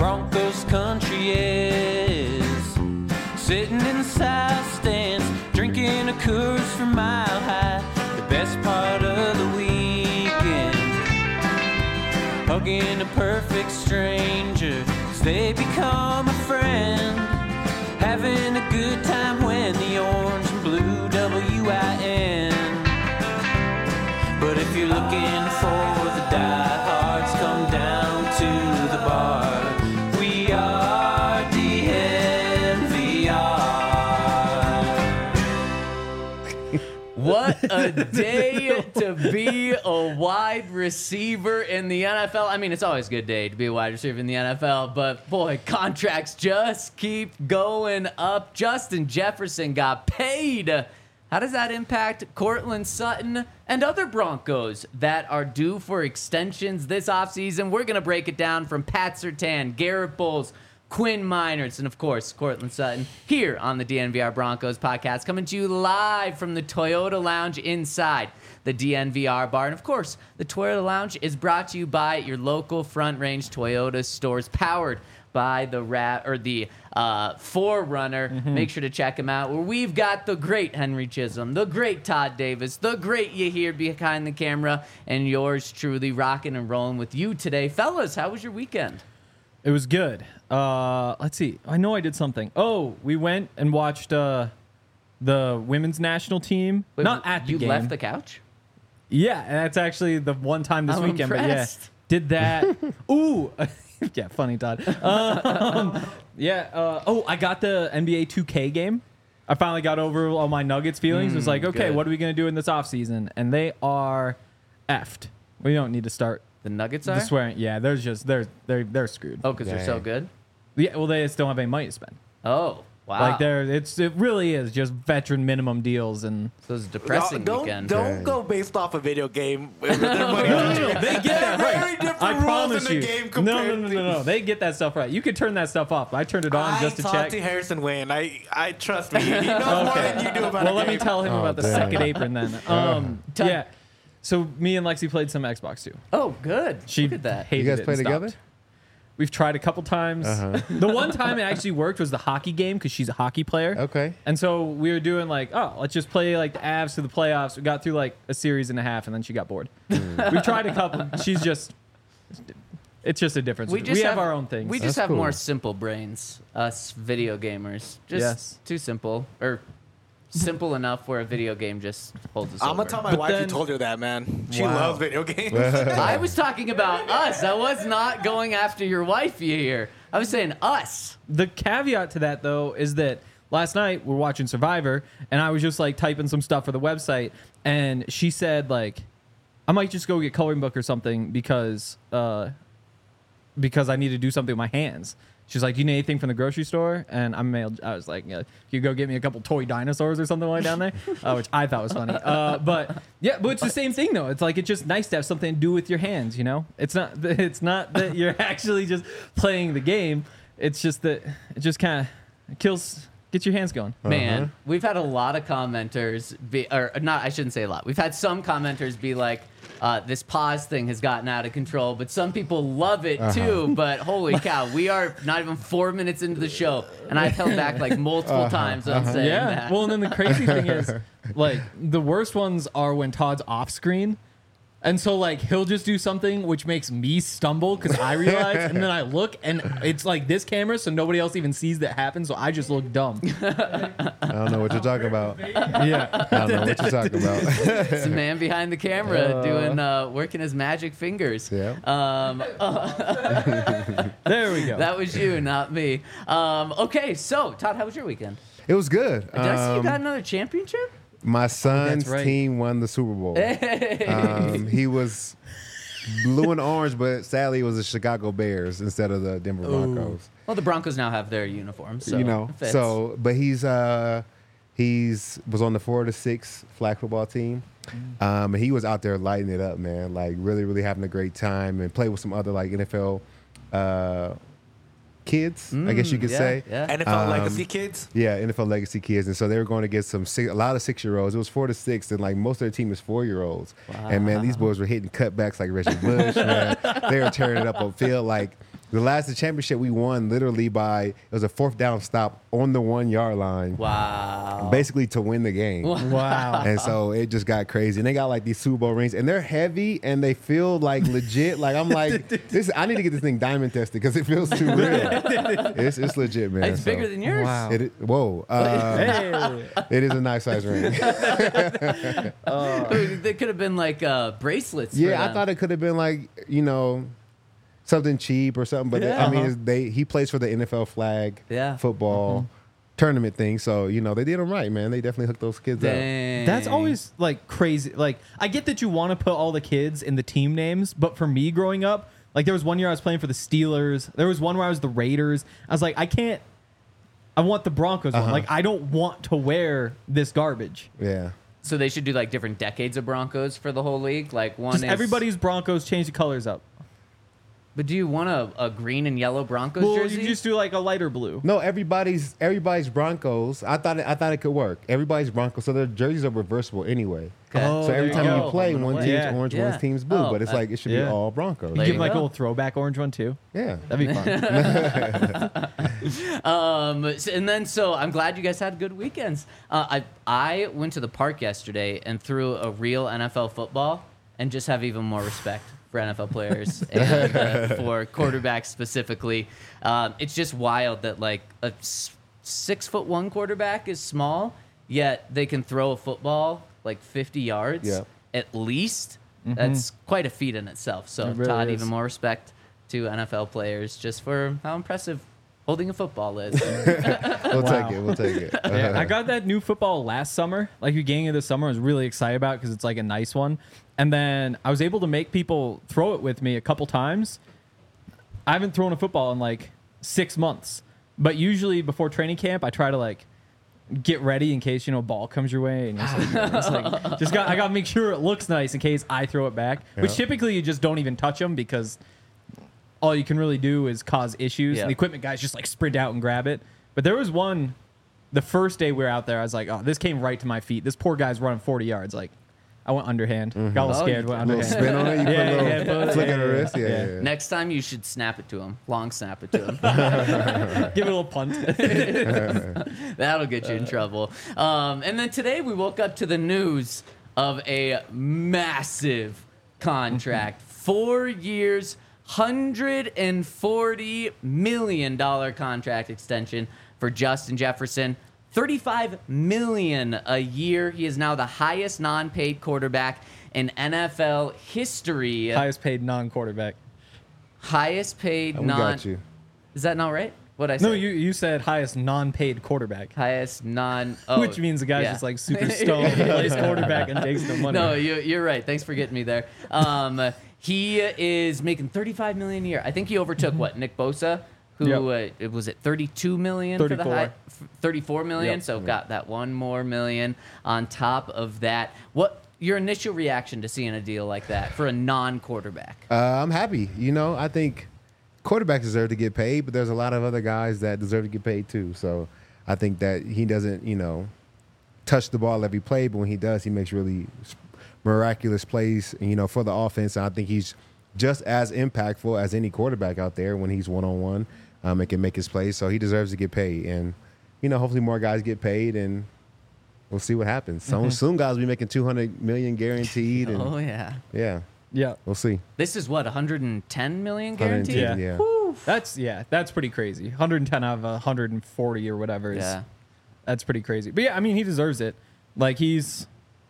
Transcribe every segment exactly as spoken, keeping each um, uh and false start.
Broncos country is. Sitting in the south stands, drinking a Coors from Mile High. The best part of the weekend, hugging a perfect stranger as they become a friend. Having a good time when the orange and blue W I N. But if you're looking for the diehards, come down to the bar. We are D N V R. What a day to be a wide receiver in the N F L. I mean, it's always a good day to be a wide receiver in the N F L, but boy, contracts just keep going up. Justin Jefferson got paid. How does that impact Courtland Sutton and other Broncos that are due for extensions this offseason? We're going to break it down from Pat Surtain, Garrett Bowles, Quinn Miners, and of course, Courtland Sutton here on the D N V R Broncos podcast, coming to you live from the Toyota Lounge inside the D N V R bar. And of course, the Toyota Lounge is brought to you by your local Front Range Toyota stores, powered by the rat or the uh, Forerunner. Mm-hmm. Make sure to check them out, where we've got the great Henry Chisholm, the great Todd Davis, the great Yahir behind the camera, and yours truly rocking and rolling with you today. Fellas, how was your weekend? It was good. Uh, let's see. I know I did something. Oh, we went and watched uh, the women's national team. Wait, Not at the you game. left the couch? Yeah, and that's actually the one time this I'm weekend. impressed. But yeah, did that. Ooh. Yeah, funny, Todd. Um, yeah. Uh, oh, I got the N B A two K game. I finally got over all my Nuggets feelings. Mm, it was like, okay, good. what are we going to do in this offseason? And they are effed. We don't need to start The Nuggets the are? swearing. Yeah, they're just, they're, they're, they're screwed. Oh, because they're so Dang. good? Yeah, well, they still don't have any money to spend. Oh, wow. Like, they're, it's, it really is just veteran minimum deals. And So it was a depressing don't weekend. don't Dang. go based off a video game. With their money. no, no, no, they get that Very right. different I rules promise in you. the game No, compared no, no, no, no. They get that stuff right. You could turn that stuff off. I turned it on I just to talked check. to Harrison Wayne. I, I trust me. He knows more than you do about Well, a let me game. tell him Oh, about the dang. second apron then. Um, Tell- yeah. So me and Lexi played some Xbox too. Oh, good. She Look at that. hated You guys it play and stopped. together? We've tried a couple times. Uh-huh. The one time it actually worked was the hockey game because she's a hockey player. Okay. And so we were doing like, oh, let's just play like the Avs to the playoffs. We got through like a series and a half, and then she got bored. We've tried a couple. She's just, it's just a difference. We We, just have, have- our own things. We just That's have more cool. simple brains, us video gamers. Just Yes. too simple. Or simple enough where a video game just holds us I'm over. gonna tell my But wife you then- told her that, man. She Wow. loves video games. I was talking about us. I was not going after your wife here. I was saying us. The caveat to that, though, is that last night we're watching Survivor, and I was just like typing some stuff for the website, and she said like, I might just go get coloring book or something because uh, because I need to do something with my hands. She's like, do you need anything from the grocery store? And I'm male. I was like, yeah, you go get me a couple toy dinosaurs or something like down there, uh, which I thought was funny. Uh, but yeah, but it's the same thing though. It's like it's just nice to have something to do with your hands. You know, it's not it's not that you're actually just playing the game. It's just that it just kind of kills. Get your hands going. Man, we've had a lot of commenters be, or not, I shouldn't say a lot. We've had some commenters be like, uh, this pause thing has gotten out of control, but some people love it too. But holy cow, we are not even four minutes into the show, and I've held back like multiple times on saying Yeah. that. Well, and then the crazy thing is, like, the worst ones are when Todd's off screen. And so, like, he'll just do something which makes me stumble because I realize, and then I look, and it's like this camera, so nobody else even sees that happen, so I just look dumb. I don't know what you're talking about. Yeah. I don't know what you're talking about. It's the man behind the camera doing uh, working his magic fingers. Yeah. Um, There we go. that was you, not me. Um, okay, so Todd, how was your weekend? It was good. Did I see you Um, got another championship? my son's right. team won the Super Bowl. Um, he was blue and orange, but sadly it was the Chicago Bears instead of the Denver Broncos. Well, the Broncos now have their uniforms, so you know, it fits. so but he's uh he's was on the four to six flag football team. Um, and he was out there lighting it up, man. Like really, really having a great time and play with some other like N F L uh, kids, I guess you could yeah, say. yeah. N F L Um, legacy kids. Yeah, N F L legacy kids, and so they were going to get some six, a lot of six year olds. It was four to six, and like most of their team is four year olds. And man, these boys were hitting cutbacks like Reggie Bush. Man, they were tearing it up on field. Like The last the championship we won literally by it was a fourth down stop on the one yard line. Wow. Basically to win the game. Wow. And so it just got crazy. And they got like these Super Bowl rings, and they're heavy and they feel like legit. Like I'm like, this. I need to get this thing diamond tested because it feels too real. it's it's legit, man. It's So, bigger than yours. Wow. It, is- whoa, uh, Hey. it is a nice size ring. They could have been like uh, bracelets. for Yeah, I them. thought it could have been like you know something cheap or something, but Yeah. I mean, Uh-huh. it's, they he plays for the N F L flag Yeah. football tournament thing, so you know they did them right, man. They definitely hooked those kids up. Dang. That's always like crazy. Like I get that you want to put all the kids in the team names, but for me growing up, like there was one year I was playing for the Steelers. There was one where I was the Raiders. I was like, I can't. I want the Broncos one. Uh-huh. Like I don't want to wear this garbage. Yeah. So they should do like different decades of Broncos for the whole league. Like one Just is everybody's Broncos, change the colors up. But do you want a, a green and yellow Broncos Well, jersey? you just do like a lighter blue. No, everybody's everybody's Broncos. I thought it, I thought it could work. Everybody's Broncos, so their jerseys are reversible anyway. Okay. Oh, so every there time you you go. play, one team's Yeah. orange, Yeah. one team's blue. Oh, but it's uh, like it should yeah. be all Broncos. You There give you like a go. little throwback orange one too. Yeah. That'd be fun. Um, s- and then so I'm glad you guys had good weekends. Uh, I I went to the park yesterday and threw a real N F L football, and just have even more respect for N F L players and uh, for quarterbacks specifically. Um, it's just wild that like a s- six foot one quarterback is small, yet they can throw a football like fifty yards Yeah. at least. That's quite a feat in itself. So It really Todd, is. even more respect to N F L players just for how impressive holding a football is. We'll Wow. take it. We'll take it. Yeah, I got that new football last summer, like beginning of the summer. I was really excited about because it's like a nice one. And then I was able to make people throw it with me a couple times. I haven't thrown a football in like six months, but usually before training camp, I try to like get ready in case you know a ball comes your way, and just, like, it's like, just got I got to make sure it looks nice in case I throw it back. Which Yeah. typically you just don't even touch them because all you can really do is cause issues. Yeah. The equipment guys just like sprint out and grab it. But there was one, the first day we were out there, I was like, oh, this came right to my feet. This poor guy's running forty yards. Like, I went underhand. Got a little Oh, scared, you went A little underhand. spin on it. You put Yeah, a little yeah, put it- flick yeah, of the yeah, wrist. Yeah, yeah. yeah. yeah. Next time you should snap it to him. Long snap it to him. Give it a little punt. That'll get you in trouble. Um, and then today we woke up to the news of a massive contract. Four years, one hundred forty million dollars contract extension for Justin Jefferson. thirty-five million dollars a year. He is now the highest non-paid quarterback in N F L history. Highest paid non-quarterback. Highest paid We non. got you. Is that not right? What I say? No, you you said highest non-paid quarterback, highest non. Oh, which means the guy's yeah. just like super stoned, and plays quarterback, and takes the money. No, you, you're right. Thanks for getting me there. Um, he is making thirty-five million a year. I think he overtook what Nick Bosa, who Mm-hmm. Yep. uh, it was at thirty-two million for the thirty-four. high, f- thirty-four million. Yep. So got that one more million on top of that. What your initial reaction to seeing a deal like that for a non-quarterback? Uh, I'm happy. You know, I think quarterbacks deserve to get paid, but there's a lot of other guys that deserve to get paid too. So I think that he doesn't, you know, touch the ball every play, but when he does, he makes really miraculous plays, you know, for the offense. And I think he's just as impactful as any quarterback out there when he's one on one and can make his plays. So he deserves to get paid. And, you know, hopefully more guys get paid and we'll see what happens. So soon guys will be making two hundred million guaranteed. And Oh yeah, yeah, Yeah, we'll see. this is what one hundred ten million one hundred guaranteed. ten, Yeah. yeah. that's yeah, that's pretty crazy. one hundred ten out of one hundred forty or whatever is Yeah. that's pretty crazy. But yeah, I mean, he deserves it. Like he's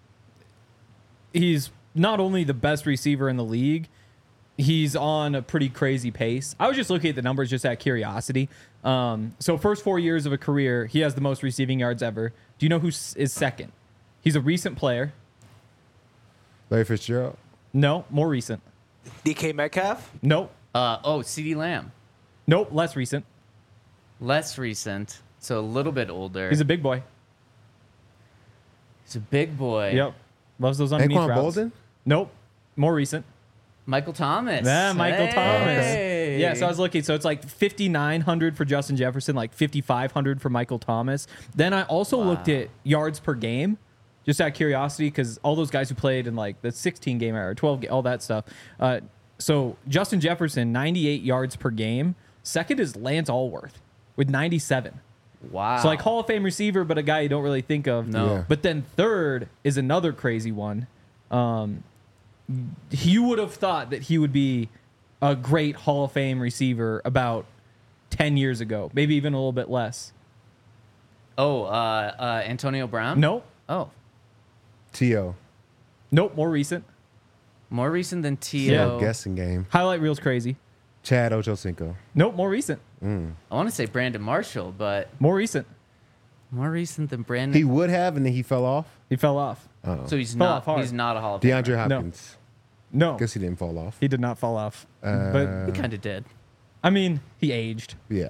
he's not only the best receiver in the league, he's on a pretty crazy pace. I was just looking at the numbers just out of curiosity. Um, so first four years of a career, he has the most receiving yards ever. Do you know who s- is second? He's a recent player. Larry Fitzgerald. No, more recent. D K Metcalf? Nope. Uh, oh, CeeDee Lamb, Nope, less recent. less recent, so a little bit older. He's a big boy. He's a big boy. Yep. Loves those underneath Anquan routes. Bolden? Nope. More recent. Michael Thomas. Yeah, Michael Hey. Thomas. Yeah, so I was looking. So it's like fifty-nine hundred for Justin Jefferson, like fifty-five hundred for Michael Thomas. Then I also looked at yards per game, just out of curiosity, because all those guys who played in like the sixteen game era, twelve, ga- all that stuff. Uh, So Justin Jefferson, ninety-eight yards per game. Second is Lance Allworth with ninety-seven. Wow. So like Hall of Fame receiver, but a guy you don't really think of. No. Yeah. But then third is another crazy one. Um, you would have thought that he would be a great Hall of Fame receiver about ten years ago, maybe even a little bit less. Oh, uh, uh, Antonio Brown? Nope. Oh, T O Nope. More recent. more recent than T Yeah. O. guessing game. Highlight reel's crazy. Chad Ochocinco. Nope. More recent. I want to say Brandon Marshall, but More recent. more recent than Brandon. He would have, and then he fell off. He fell off. Oh. so he's Fell not. off hard. He's not a Hall of Famer. DeAndre Hopkins. No. Guess he didn't fall off. He did not fall off. Uh, but He kind of did. I mean, he aged. Yeah.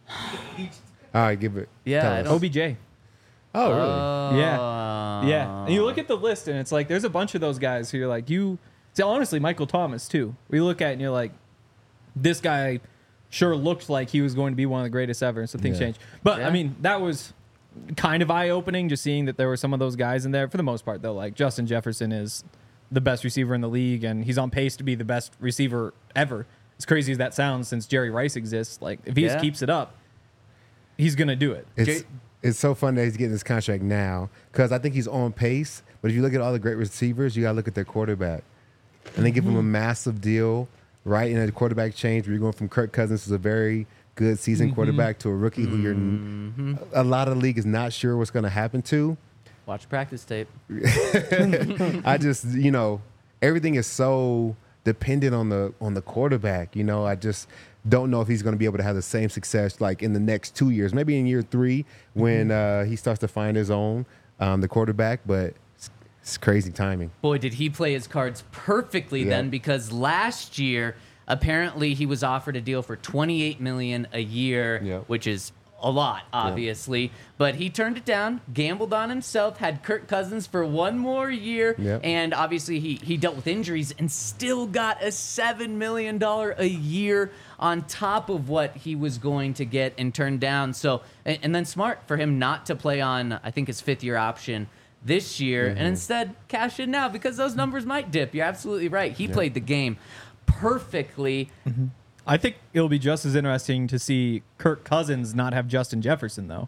All right, give it. Yeah, tell I us. don't- O B J. Oh, really? Uh, Yeah. Yeah. And you look at the list, and it's like there's a bunch of those guys who you're like, you. See, honestly, Michael Thomas, too. We look at it and you're like, this guy sure looked like he was going to be one of the greatest ever, and so things Yeah. changed. But, Yeah. I mean, that was kind of eye opening just seeing that there were some of those guys in there. For the most part, though, like Justin Jefferson is the best receiver in the league, and he's on pace to be the best receiver ever. As crazy as that sounds, since Jerry Rice exists, like if he Yeah. just keeps it up, he's going to do it. It's J- it's so fun that he's getting this contract now because I think he's on pace. But if you look at all the great receivers, you got to look at their quarterback, and they give him a massive deal right in a quarterback change. Where you're going from Kirk Cousins, who's a very good seasoned quarterback, to a rookie who you're n- a lot of the league is not sure what's going to happen to. Watch practice tape. I just, you know, everything is so dependent on the on the quarterback. You know, I just don't know if he's going to be able to have the same success like in the next two years, maybe in year three when uh, he starts to find his own, um, the quarterback. But it's, it's crazy timing. Boy, did he play his cards perfectly Yeah. then, because last year apparently he was offered a deal for twenty-eight million dollars a year, Yeah. which is a lot, obviously. But he turned it down, gambled on himself, had Kirk Cousins for one more year, Yeah. and obviously he he dealt with injuries and still got a seven million dollars a year on top of what he was going to get and turned down. So, and, and then smart for him not to play on, I think, his fifth year option this year, and instead cash in now because those numbers might dip. You're absolutely right. He played the game perfectly. I think it'll be just as interesting to see Kirk Cousins not have Justin Jefferson, though.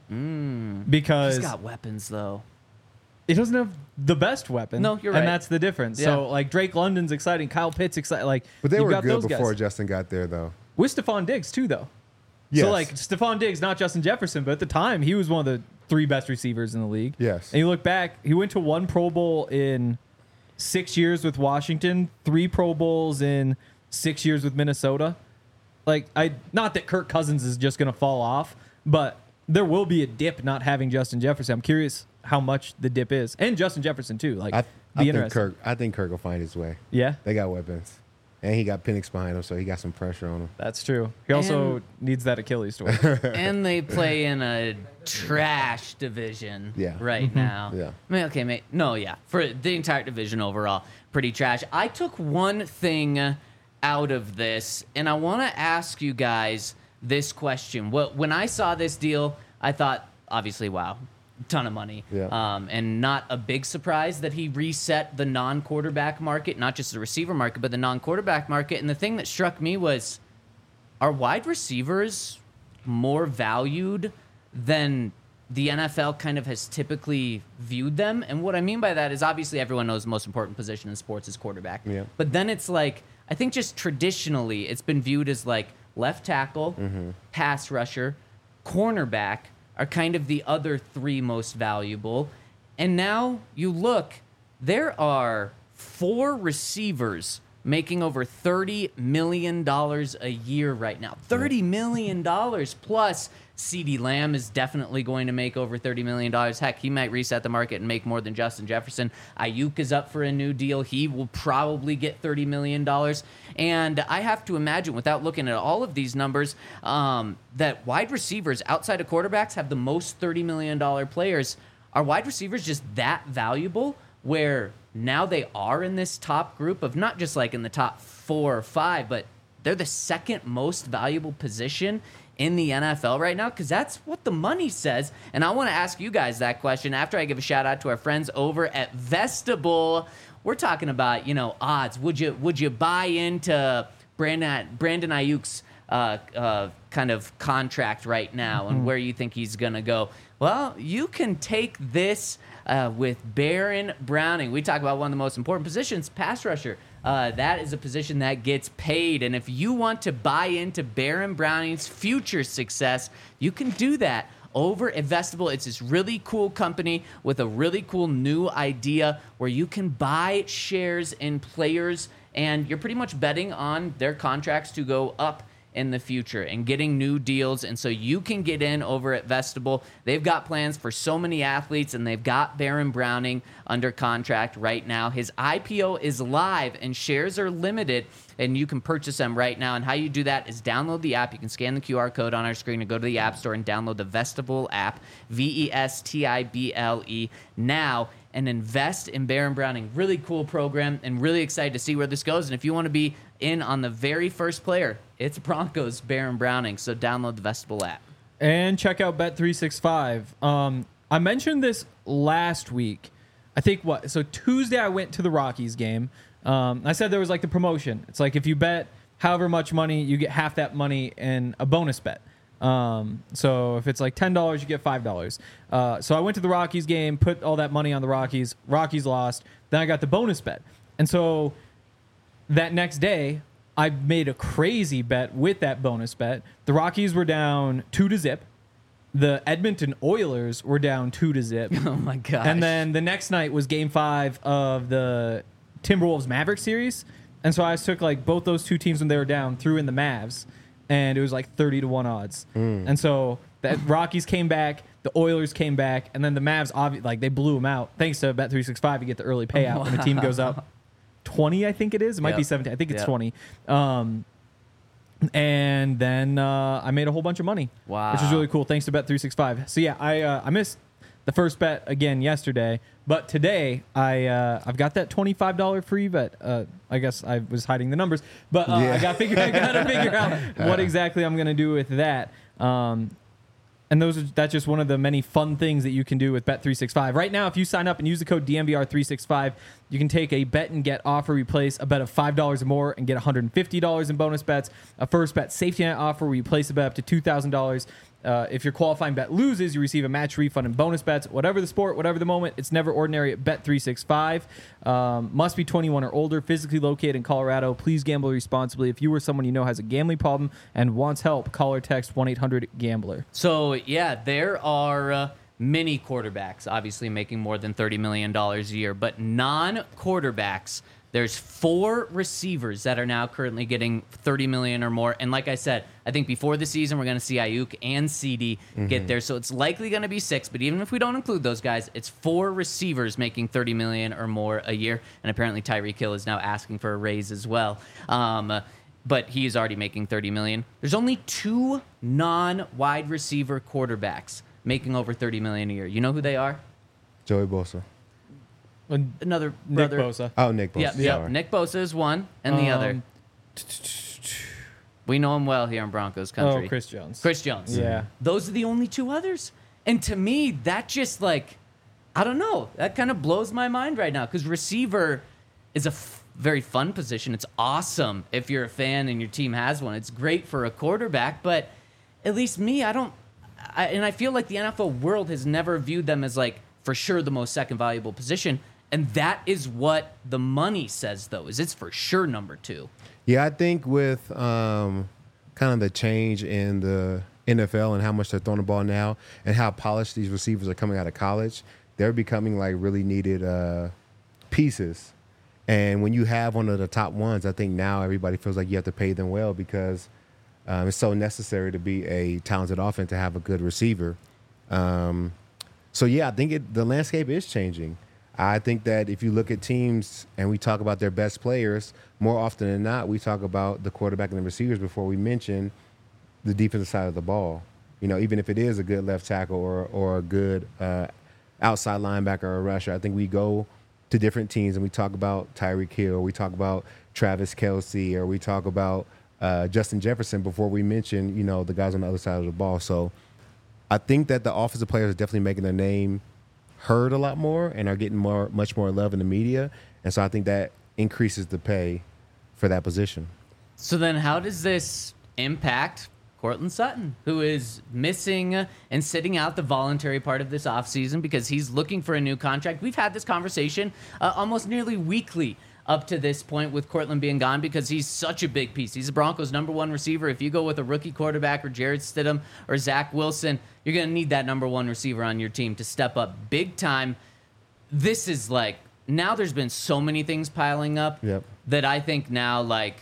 Because He's got weapons, though. he doesn't have the best weapon. No, you're right. And that's the difference. Yeah. So, like, Drake London's exciting. Kyle Pitts exciting. Like, But they you've were got good those before guys. Justin got there, though. With Stephon Diggs, too, though. Yes. So, like, Stephon Diggs, not Justin Jefferson, but at the time, he was one of the three best receivers in the league. Yes. And you look back, he went to one Pro Bowl in six years with Washington, three Pro Bowls in six years with Minnesota. Like, I not that Kirk Cousins is just going to fall off, but there will be a dip not having Justin Jefferson. I'm curious how much the dip is. And Justin Jefferson, too. Like, I, be I think interesting. Kirk. I think Kirk will find his way. Yeah, They got weapons, and he got Penix behind him, so he got some pressure on him. that's true. He also And- needs that Achilles story. And they play in a trash division Yeah. right now. Yeah. I mean, okay, mate. No, yeah. For the entire division overall, pretty trash. I took one thing out of this, and I want to ask you guys this question. What When I saw this deal, I thought, obviously, wow, ton of money. Yeah. Um, and not a big surprise that he reset the non-quarterback market, not just the receiver market, but the non-quarterback market. And the thing that struck me was, are wide receivers more valued than the N F L kind of has typically viewed them? And what I mean by that is, obviously everyone knows the most important position in sports is quarterback. Yeah. But then it's like, I think just traditionally it's been viewed as like left tackle, pass rusher, cornerback are kind of the other three most valuable. And now you look, there are four receivers making over thirty million dollars a year right now. thirty million dollars plus. CeeDee Lamb is definitely going to make over thirty million dollars. Heck, he might reset the market and make more than Justin Jefferson. Ayuk is up for a new deal. He will probably get thirty million dollars. And I have to imagine, without looking at all of these numbers, um, that wide receivers outside of quarterbacks have the most thirty million dollars players. Are wide receivers just that valuable where now they are in this top group of not just like in the top four or five, but they're the second most valuable position in the N F L right now? Because that's what the money says. And I want to ask you guys that question after I give a shout out to our friends over at Vestibule. we're talking about, you know, odds. Would you would you buy into Brandon Brandon Ayuk's uh, uh, kind of contract right now Mm-hmm. and where you think he's gonna go? Well, you can take this uh, with Baron Browning. We talk about one of the most important positions, pass rusher. Uh, that is a position that gets paid. And if you want to buy into Baron Browning's future success, you can do that over at Vestable. It's this really cool company with a really cool new idea where you can buy shares in players and you're pretty much betting on their contracts to go up in the future and getting new deals. And so you can get in over at Vestable. They've got plans for so many athletes, and they've got Baron Browning under contract right now. His I P O is live and shares are limited, and you can purchase them right now. And how you do that is download the app. You can scan the Q R code on our screen and go to the App Store and download the Vestable app, V E S T I B L E, now, and invest in Baron Browning. Really cool program, and really excited to see where this goes. And if you want to be in on the very first player, it's Broncos Baron Browning. So download the Vestable app. And check out Bet three sixty-five. Um, I mentioned this last week. I think what? So Tuesday I went to the Rockies game. Um, I said there was like the promotion. It's like if you bet however much money, you get half that money in a bonus bet. Um, so if it's like ten dollars, you get five dollars. Uh, so I went to the Rockies game, put all that money on the Rockies. Rockies lost. Then I got the bonus bet. And so that next day, I made a crazy bet with that bonus bet. The Rockies were down two to zip. The Edmonton Oilers were down two to zip. Oh my gosh. And then the next night was game five of the Timberwolves Mavericks series. And so I took like both those two teams when they were down, threw in the Mavs, and it was like thirty to one odds. Mm. And so the Rockies came back, the Oilers came back, and then the Mavs, obvi- like they blew them out. Thanks to Bet three sixty-five, you get the early payout when the team goes up twenty, I think it is. It might Yep. be seventeen. I think it's Yep. twenty. Um, and then uh, I made a whole bunch of money. Wow. Which is really cool. Thanks to Bet three sixty-five. So yeah, I uh, I missed the first bet again yesterday, but today I uh, I've got that twenty-five dollars free bet. Uh, I guess I was hiding the numbers, but uh, Yeah. I got to figure I got to figure out what exactly I'm gonna do with that. Um, And those are, that's just one of the many fun things that you can do with Bet three sixty-five. Right now, if you sign up and use the code D M V R three sixty-five, you can take a bet and get offer, replace a bet of five dollars or more and get one hundred fifty dollars in bonus bets. A first bet safety net offer where you place a bet up to two thousand dollars. Uh, if your qualifying bet loses, you receive a match refund and bonus bets. Whatever the sport, whatever the moment, it's never ordinary at Bet three sixty-five. Um, must be twenty-one or older, physically located in Colorado. Please gamble responsibly. If you or someone you know has a gambling problem and wants help, call or text one eight hundred gambler. So, yeah, there are uh, many quarterbacks obviously making more than thirty million dollars a year, but non-quarterbacks, there's four receivers that are now currently getting thirty million dollars or more. And like I said, I think before the season, we're going to see Ayuk and C D get there. So it's likely going to be six. But even if we don't include those guys, it's four receivers making thirty million dollars or more a year. And apparently Tyreek Hill is now asking for a raise as well. Um, but he is already making thirty million dollars. There's only two non-wide receiver quarterbacks making over thirty million dollars a year. You know who they are? Joey Bosa. Another Nick brother. Bosa. Oh, Nick Bosa. Yeah, yeah. Sorry. Nick Bosa is one, and the Um, other. We know him well here in Broncos country. Oh, Chris Jones. Chris Jones. Yeah. Those are the only two others. And to me, that just like, I don't know, that kind of blows my mind right now because receiver is a f- very fun position. It's awesome if you're a fan and your team has one. It's great for a quarterback, but at least me, I don't, I, and I feel like the N F L world has never viewed them as like for sure the most second valuable position. And that is what the money says, though, is it's for sure number two. Yeah, I think with um, kind of the change in the N F L and how much they're throwing the ball now and how polished these receivers are coming out of college, they're becoming like really needed uh, pieces. And when you have one of the top ones, I think now everybody feels like you have to pay them well because um, it's so necessary to be a talented offense to have a good receiver. Um, so, yeah, I think it, the landscape is changing. I think that if you look at teams and we talk about their best players, more often than not, we talk about the quarterback and the receivers before we mention the defensive side of the ball. You know, even if it is a good left tackle or or a good uh, outside linebacker or a rusher, I think we go to different teams and we talk about Tyreek Hill, or we talk about Travis Kelce, or we talk about uh, Justin Jefferson before we mention, you know, the guys on the other side of the ball. So I think that the offensive players are definitely making their name heard a lot more and are getting more, much more love in the media. And so I think that increases the pay for that position. So then how does this impact Courtland Sutton, who is missing and sitting out the voluntary part of this offseason because he's looking for a new contract? We've had this conversation uh, almost nearly weekly up to this point with Courtland being gone because he's such a big piece. He's the Broncos' number one receiver. If you go with a rookie quarterback or Jarrett Stidham or Zach Wilson, you're going to need that number one receiver on your team to step up big time. This is like, now there's been so many things piling up Yep. that I think now, like,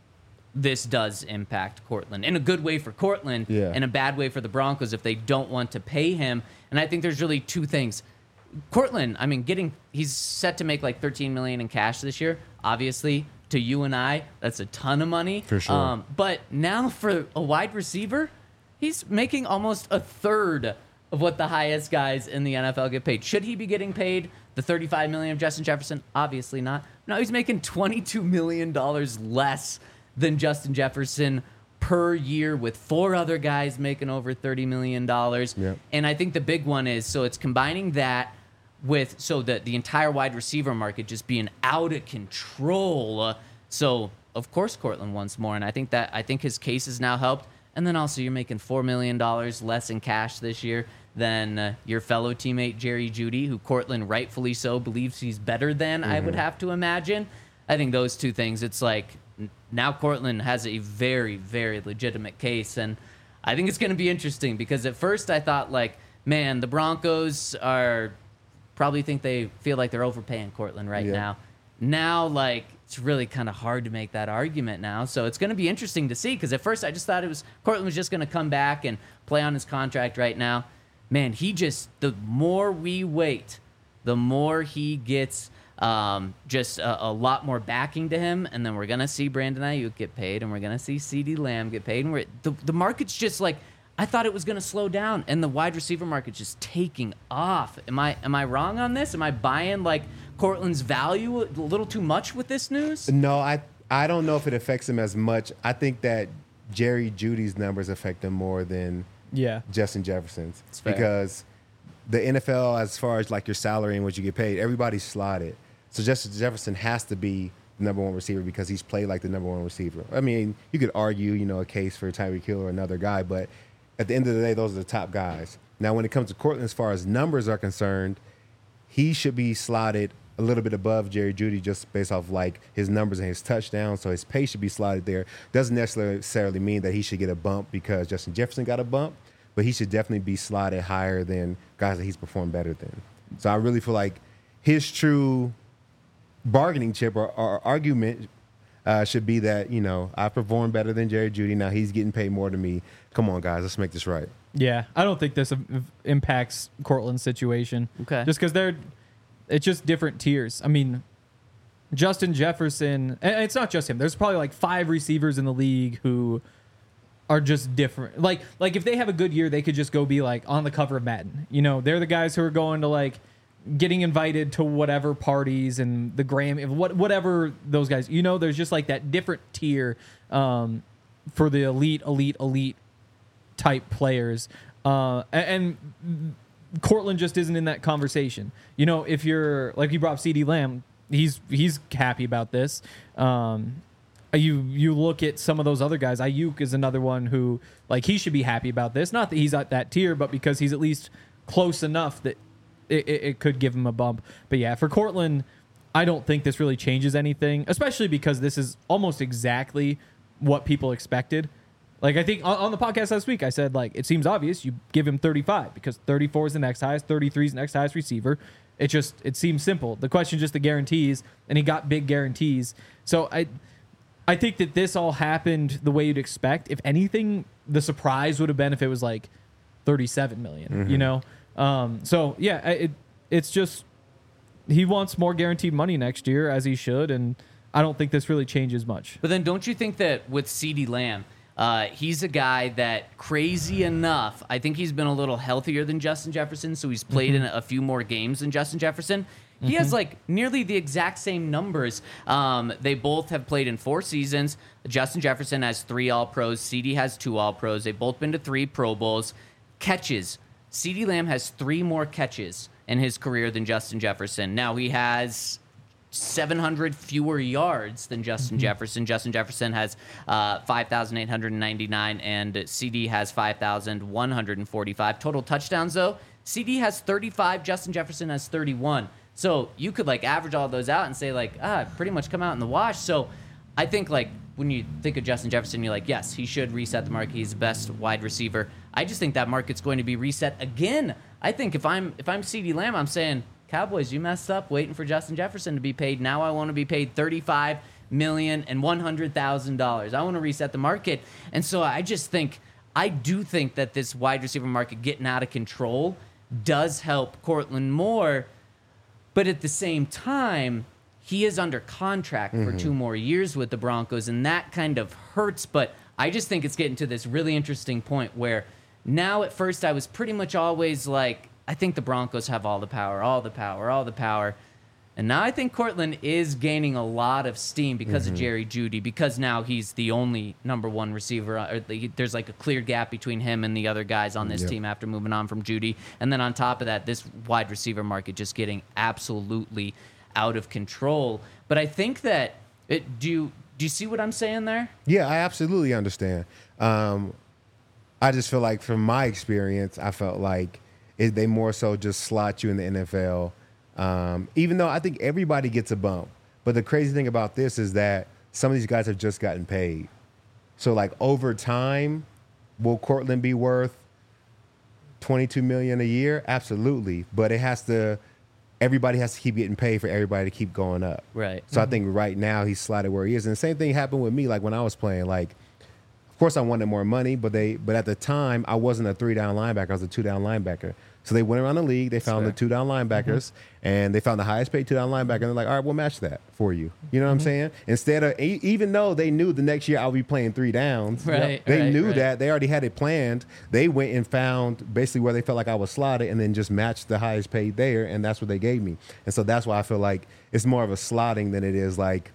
this does impact Courtland in a good way for Courtland Yeah. and a bad way for the Broncos if they don't want to pay him. And I think there's really two things. Courtland, I mean, getting he's set to make like thirteen million dollars in cash this year. Obviously, to you and I, that's a ton of money. For sure. Um, but now for a wide receiver, he's making almost a third of what the highest guys in the N F L get paid. Should he be getting paid the thirty-five million dollars of Justin Jefferson? Obviously not. No, he's making twenty-two million dollars less than Justin Jefferson per year, with four other guys making over thirty million dollars. Yep. And I think the big one is, so it's combining that with, so that the entire wide receiver market just being out of control. Uh, so, of course, Courtland wants more. And I think that, I think his case has now helped. And then also you're making four million dollars less in cash this year than uh, your fellow teammate Jerry Jeudy, who Courtland rightfully so believes he's better than, I would have to imagine. I think those two things, it's like, now Courtland has a very, very legitimate case. And I think it's going to be interesting because at first I thought, like, man, the Broncos are probably think they feel like they're overpaying Courtland right Yeah. now. Now, like, it's really kind of hard to make that argument now. So it's going to be interesting to see because at first I just thought it was Courtland was just going to come back and play on his contract right now. Man, he just, the more we wait, the more he gets um, just a, a lot more backing to him. And then we're going to see Brandon Ayuk get paid and we're going to see CeeDee Lamb get paid. And we're, the, the market's just like, I thought it was going to slow down and the wide receiver market's just taking off. Am I, am I wrong on this? Am I buying like Courtland's value a little too much with this news? No, I I don't know if it affects him as much. I think that Jerry Jeudy's numbers affect him more than Yeah. Justin Jefferson's fair. because the N F L, as far as like your salary and what you get paid, everybody's slotted. So Justin Jefferson has to be the number one receiver because he's played like the number one receiver. I mean, you could argue, you know, a case for Tyreek Hill or another guy, but at the end of the day, those are the top guys. Now, when it comes to Courtland, as far as numbers are concerned, he should be slotted a little bit above Jerry Jeudy just based off like his numbers and his touchdowns. So his pay should be slotted there. Doesn't necessarily mean that he should get a bump because Justin Jefferson got a bump, but he should definitely be slotted higher than guys that he's performed better than. So I really feel like his true bargaining chip or, or argument uh, should be that, you know, I performed better than Jerry Jeudy. Now he's getting paid more than me. Come on, guys, let's make this right. Yeah, I don't think this im- impacts Courtland's situation. Okay. Just because they're, it's just different tiers. I mean, Justin Jefferson, and it's not just him. There's probably like five receivers in the league who are just different. Like, like if they have a good year, they could just go be like on the cover of Madden. You know, they're the guys who are going to like getting invited to whatever parties and the Grammy, what whatever those guys. You know, there's just like that different tier um, for the elite, elite, elite type players. Uh, and, and Courtland just isn't in that conversation. You know, if you're like you brought up CeeDee Lamb, he's he's happy about this. Um, you you look at some of those other guys. Ayuk is another one who like he should be happy about this. Not that he's at that tier, but because he's at least close enough that it, it, it could give him a bump. But yeah, for Courtland, I don't think this really changes anything, especially because this is almost exactly what people expected. Like I think on, on the podcast last week, I said like it seems obvious you give him thirty-five because thirty-four is the next highest, thirty-three is the next highest receiver. It just it seems simple. The question is just the guarantees, and he got big guarantees. So I I think that this all happened the way you'd expect. If anything, the surprise would have been if it was like thirty-seven million. Mm-hmm. You know, um, so yeah, it it's just he wants more guaranteed money next year as he should, and I don't think this really changes much. But then don't you think that with CeeDee Lamb, Uh, he's a guy that, crazy enough, I think he's been a little healthier than Justin Jefferson, so he's played Mm-hmm. in a few more games than Justin Jefferson. He has, like, nearly the exact same numbers. Um, they both have played in four seasons. Justin Jefferson has three All-Pros. CeeDee has two All-Pros. They've both been to three Pro Bowls. Catches. CeeDee Lamb has three more catches in his career than Justin Jefferson. Now, he has seven hundred fewer yards than Justin Jefferson. Justin Jefferson has uh, five thousand eight hundred ninety-nine, and C D has five thousand one hundred forty-five. Total touchdowns, though, C D has thirty-five, Justin Jefferson has thirty-one. So you could, like, average all those out and say, like, ah, pretty much come out in the wash. So I think, like, when you think of Justin Jefferson, you're like, yes, he should reset the market. He's the best wide receiver. I just think that market's going to be reset again. I think if I'm if I'm CeeDee Lamb, I'm saying, Cowboys, you messed up waiting for Justin Jefferson to be paid. Now I want to be paid thirty-five million dollars and one hundred thousand dollars. I want to reset the market. And so I just think, I do think that this wide receiver market getting out of control does help Cortland Moore. But at the same time, he is under contract mm-hmm. for two more years with the Broncos, and that kind of hurts. But I just think it's getting to this really interesting point where now at first I was pretty much always like, I think the Broncos have all the power, all the power, all the power. And now I think Cortland is gaining a lot of steam because mm-hmm. of Jerry Jeudy, because now he's the only number one receiver. Or the, there's like a clear gap between him and the other guys on this yep. team after moving on from Jeudy. And then on top of that, this wide receiver market just getting absolutely out of control. But I think that, it, do, you, do you see what I'm saying there? Yeah, I absolutely understand. Um, I just feel like from my experience, I felt like Is they more so just slot you in the N F L, um, even though I think everybody gets a bump. But the crazy thing about this is that some of these guys have just gotten paid. So, like, over time, will Cortland be worth twenty-two million dollars a year? Absolutely. But it has to, everybody has to keep getting paid for everybody to keep going up. Right. So mm-hmm. I think right now he's slotted where he is. And the same thing happened with me, like when I was playing. Like, of course, I wanted more money, but they, but at the time, I wasn't a three-down linebacker. I was a two-down linebacker. So they went around the league. They found Sure. the two-down linebackers, mm-hmm. and they found the highest-paid two-down linebacker. And they're like, all right, we'll match that for you. You know what mm-hmm. I'm saying? Instead of, e- even though they knew the next year I'll be playing three downs, right, they right, knew right. that. They already had it planned. They went and found basically where they felt like I was slotted and then just matched the highest-paid there, and that's what they gave me. And so that's why I feel like it's more of a slotting than it is like,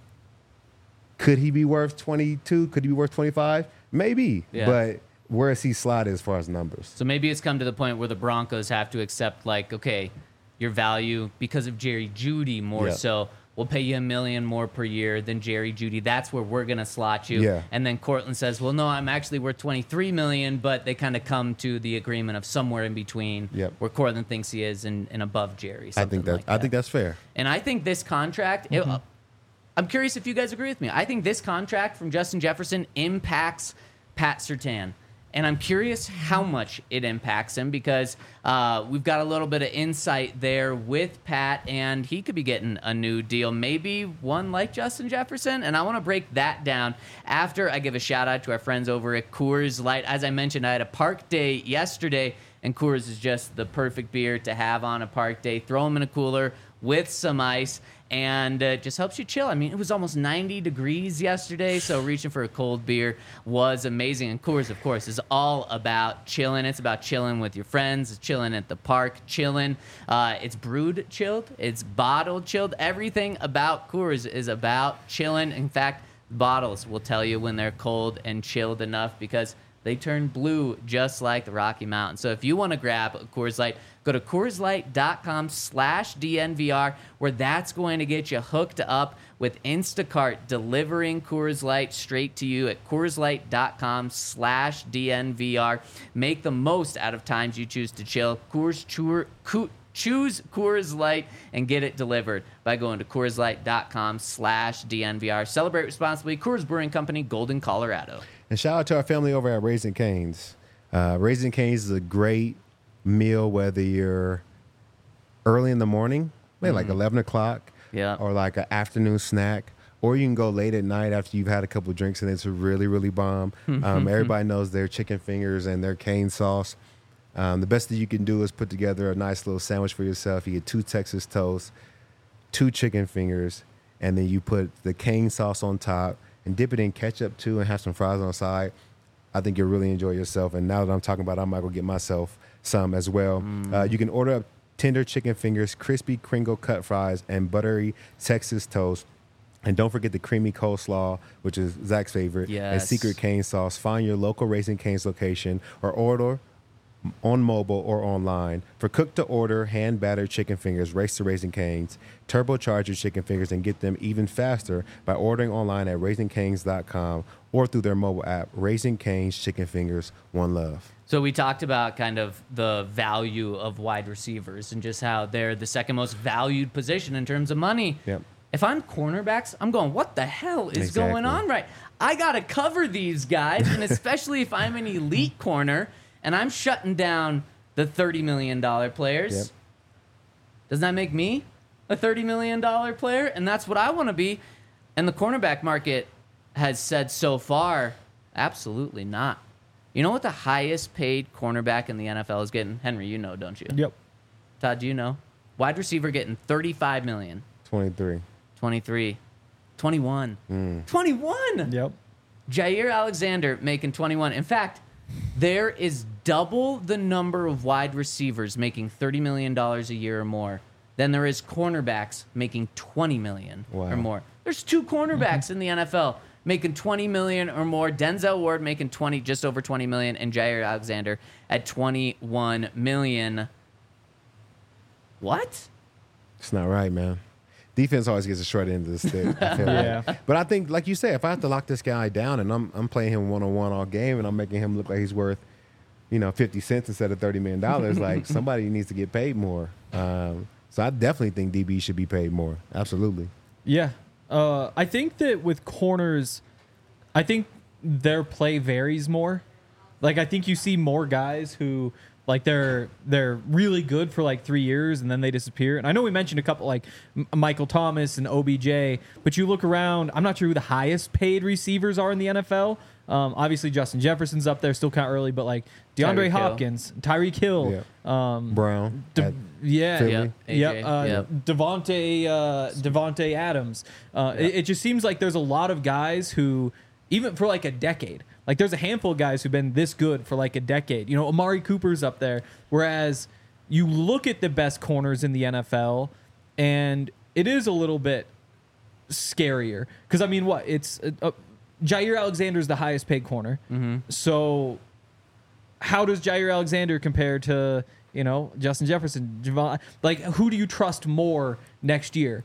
could he be worth twenty-two? Could he be worth twenty-five? Maybe, Yeah. but where is he slotted as far as numbers? So maybe it's come to the point where the Broncos have to accept, like, okay, your value because of Jerry Jeudy more Yeah. so. We'll pay you a million more per year than Jerry Jeudy. That's where we're gonna slot you. Yeah. And then Cortland says, well, no, I'm actually worth twenty-three million, but they kind of come to the agreement of somewhere in between Yep. where Cortland thinks he is and, and above Jerry. I something think that, like I think that's fair. And I think this contract, it, uh, I'm curious if you guys agree with me. I think this contract from Justin Jefferson impacts Pat Surtain. And I'm curious how much it impacts him because uh, we've got a little bit of insight there with Pat, and he could be getting a new deal, maybe one like Justin Jefferson. And I want to break that down after I give a shout out to our friends over at Coors Light. As I mentioned, I had a park day yesterday, and Coors is just the perfect beer to have on a park day. Throw them in a cooler with some ice, and it uh, just helps you chill. I mean, it was almost ninety degrees yesterday, so reaching for a cold beer was amazing. And Coors, of course, is all about chilling. It's about chilling with your friends, it's chilling at the park, chilling. Uh, it's brewed chilled, it's bottled chilled. Everything about Coors is about chilling. In fact, bottles will tell you when they're cold and chilled enough because they turn blue just like the Rocky Mountains. So if you want to grab a Coors Light, go to CoorsLight.com slash DNVR, where that's going to get you hooked up with Instacart delivering Coors Light straight to you at CoorsLight.com slash DNVR. Make the most out of times you choose to chill. Coors Tour, Co- Choose Coors Light and get it delivered by going to CoorsLight.com slash DNVR. Celebrate responsibly. Coors Brewing Company, Golden, Colorado. And shout out to our family over at Raising Cane's. Uh, Raising Cane's is a great meal, whether you're early in the morning, maybe mm. like eleven o'clock, yeah, or like an afternoon snack, or you can go late at night after you've had a couple of drinks and it's really, really bomb. Um, everybody knows their chicken fingers and their cane sauce. Um, the best that you can do is put together a nice little sandwich for yourself. You get two Texas toast, two chicken fingers, and then you put the cane sauce on top and dip it in ketchup too and have some fries on the side. I think you'll really enjoy yourself. And now that I'm talking about it, I might go get myself some as well. Mm. Uh, you can order up tender chicken fingers, crispy Kringle cut fries, and buttery Texas toast. And don't forget the creamy coleslaw, which is Zach's favorite, yes. and secret cane sauce. Find your local Raising Cane's location or order on mobile or online. For cook-to-order, hand-battered chicken fingers, race to Raising Cane's, turbocharge your chicken fingers and get them even faster by ordering online at raising cane's dot com or through their mobile app. Raising Cane's Chicken Fingers, one love. So we talked about kind of the value of wide receivers and just how they're the second most valued position in terms of money. Yep. If I'm cornerbacks, I'm going, what the hell is Exactly. going on right? I got to cover these guys, and especially if I'm an elite corner and I'm shutting down the thirty million dollars players. Yep. Doesn't that make me a thirty million dollars player? And that's what I want to be. And the cornerback market has said so far, absolutely not. You know what the highest paid cornerback in the N F L is getting? Henry, you know, don't you? Yep. Todd, do you know? Wide receiver getting thirty-five million dollars, twenty-three. twenty-three, twenty-one. twenty-one! Yep. Jair Alexander making twenty-one. In fact, there is double the number of wide receivers making thirty million dollars a year or more than there is cornerbacks making twenty million dollars Wow. or more. There's two cornerbacks in the N F L making twenty million dollars or more. Denzel Ward making twenty, just over twenty million dollars, and Jair Alexander at twenty-one million dollars. What? It's not right, man. Defense always gets a short end of the stick. I feel Yeah. like. But I think, like you said, if I have to lock this guy down and I'm I'm playing him one on one all game and I'm making him look like he's worth, you know, fifty cents instead of thirty million dollars, like somebody needs to get paid more. Um, so I definitely think D B should be paid more. Absolutely. Yeah. Uh, I think that with corners, I think their play varies more. Like, I think you see more guys who, like, they're they're really good for like three years and then they disappear. And I know we mentioned a couple like M- Michael Thomas and O B J, but you look around, I'm not sure who the highest paid receivers are in the N F L. Um, obviously, Justin Jefferson's up there, still kind of early, but like DeAndre Tyreek Hill. Hopkins, Tyreek Hill, um, Brown. De- at yeah, Philly. Yep. A J, Yep, uh, yep. Devontae, uh, Devontae Adams. Uh, it, it just seems like there's a lot of guys who, even for like a decade, like there's a handful of guys who've been this good for like a decade. You know, Amari Cooper's up there. Whereas you look at the best corners in the N F L, and it is a little bit scarier. Because I mean, what it's uh, uh, Jair Alexander's the highest paid corner. Mm-hmm. So how does Jair Alexander compare to, you know, Justin Jefferson? Javon, like, who do you trust more next year?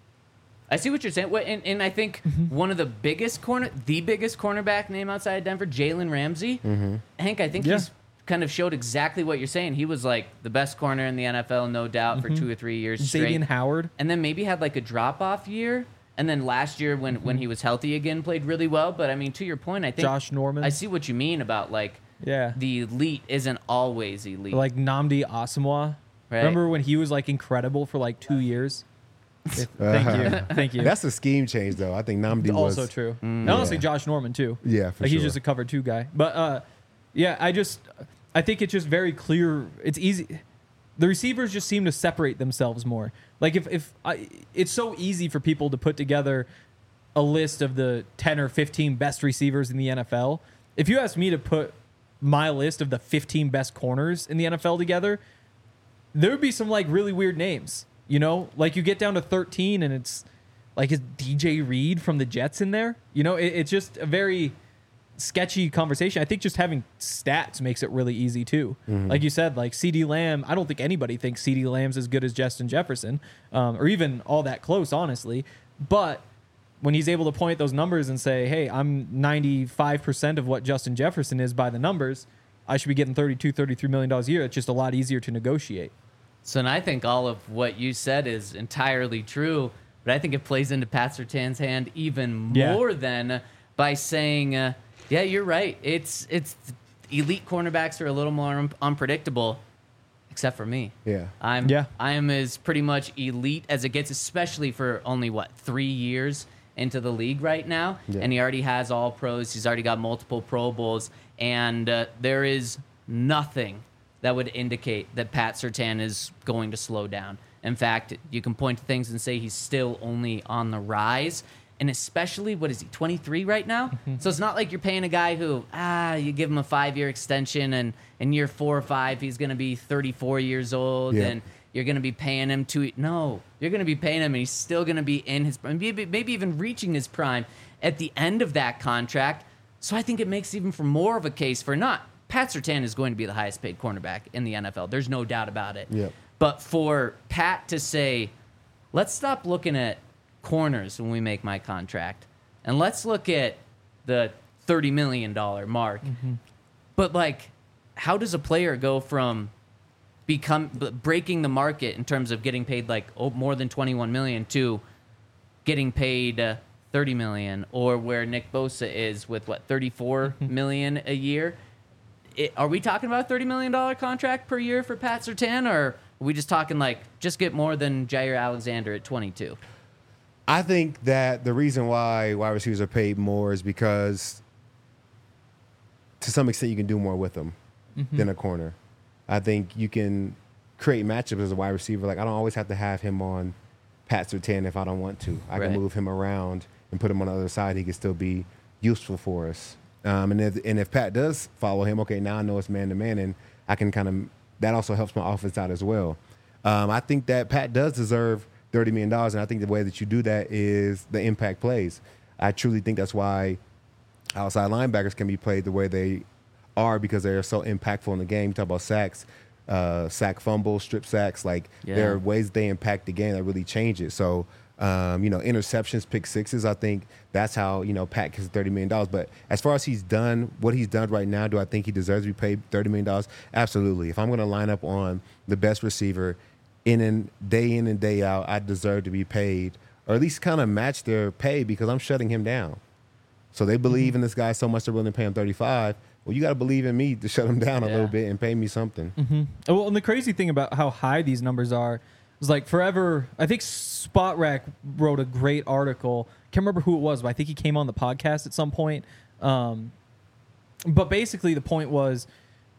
I see what you're saying. Well, And, and I think one of the biggest corner, the biggest cornerback name outside of Denver, Jalen Ramsey. Hank, I think Yeah. he's kind of showed exactly what you're saying. He was like the best corner in the N F L, no doubt, for two or three years straight. Xavier Howard. And then maybe had like a drop off year. And then last year, when, when he was healthy again, played really well. But I mean, to your point, I think Josh Norman. I see what you mean about like Yeah. the elite isn't always elite. Like Nnamdi Asamoah. Right. Remember when he was like incredible for like two years? If- Thank you. Thank you. That's a scheme change, though. I think Namdi was also true. And honestly, Yeah. Josh Norman too. Yeah, for like he's sure. just a cover two guy. But uh, yeah, I just I think it's just very clear. It's easy. The receivers just seem to separate themselves more. Like if if I, it's so easy for people to put together a list of the ten or fifteen best receivers in the N F L. If you asked me to put my list of the fifteen best corners in the N F L together, there would be some like really weird names. You know, like you get down to thirteen and it's like, is D J Reed from the Jets in there? You know, it, it's just a very sketchy conversation. I think just having stats makes it really easy too. Like you said, like CeeDee Lamb, I don't think anybody thinks CeeDee Lamb's as good as Justin Jefferson, um, or even all that close, honestly. But when he's able to point at those numbers and say, hey, I'm ninety-five percent of what Justin Jefferson is by the numbers, I should be getting thirty-two, thirty-three million dollars a year. It's just a lot easier to negotiate. So, and I think all of what you said is entirely true, but I think it plays into Pat Surtain's hand even Yeah. more than by saying, uh, yeah, you're right. It's it's elite cornerbacks are a little more un- unpredictable, except for me. Yeah. I'm Yeah. I am as pretty much elite as it gets, especially for only what three years into the league right now, Yeah. and he already has all pros. He's already got multiple Pro Bowls, and uh, there is nothing that would indicate that Pat Surtain is going to slow down. In fact, you can point to things and say he's still only on the rise. And especially, what is he, twenty-three right now? So it's not like you're paying a guy who, ah, you give him a five-year extension, and in year four or five, he's going to be thirty-four years old, Yeah. and you're going to be paying him to, no, you're going to be paying him, and he's still going to be in his, maybe, maybe even reaching his prime at the end of that contract. So I think it makes even for more of a case for not Pat Surtain is going to be the highest paid cornerback in the N F L. There's no doubt about it. Yep. But for Pat to say, let's stop looking at corners when we make my contract, and let's look at the thirty million dollars mark. Mm-hmm. But, like, how does a player go from become breaking the market in terms of getting paid, like, oh, more than twenty-one million dollars to getting paid uh, thirty million dollars, or where Nick Bosa is with, what, thirty-four million dollars a year? It, are we talking about a thirty million dollars contract per year for Pat Surtain, or are we just talking, like, just get more than Jair Alexander at twenty-two? I think that the reason why wide receivers are paid more is because to some extent you can do more with them mm-hmm. than a corner. I think you can create matchups as a wide receiver. Like, I don't always have to have him on Pat Surtain if I don't want to. I right. can move him around and put him on the other side. He can still be useful for us. Um, and, if, and if Pat does follow him, okay, now I know it's man-to-man, and I can kind of – that also helps my offense out as well. Um, I think that Pat does deserve thirty million dollars, and I think the way that you do that is the impact plays. I truly think that's why outside linebackers can be played the way they are, because they are so impactful in the game. You talk about sacks, uh, sack fumbles, strip sacks. Like, yeah. there are ways they impact the game that really change it. So, um, you know, interceptions, pick sixes, I think that's how, you know, Pat gets thirty million dollars. But as far as he's done, what he's done right now, do I think he deserves to be paid thirty million dollars? Absolutely. If I'm going to line up on the best receiver in and day in and day out, I deserve to be paid, or at least kind of match their pay, because I'm shutting him down. So they believe mm-hmm. in this guy so much they're willing to pay him thirty-five. Well, you got to believe in me to shut him down a yeah. little bit and pay me something. Mm-hmm. Well, and the crazy thing about how high these numbers are is, like, forever. I think Spot Rack wrote a great article. Can't remember who it was, but I think he came on the podcast at some point. Um, but basically, the point was,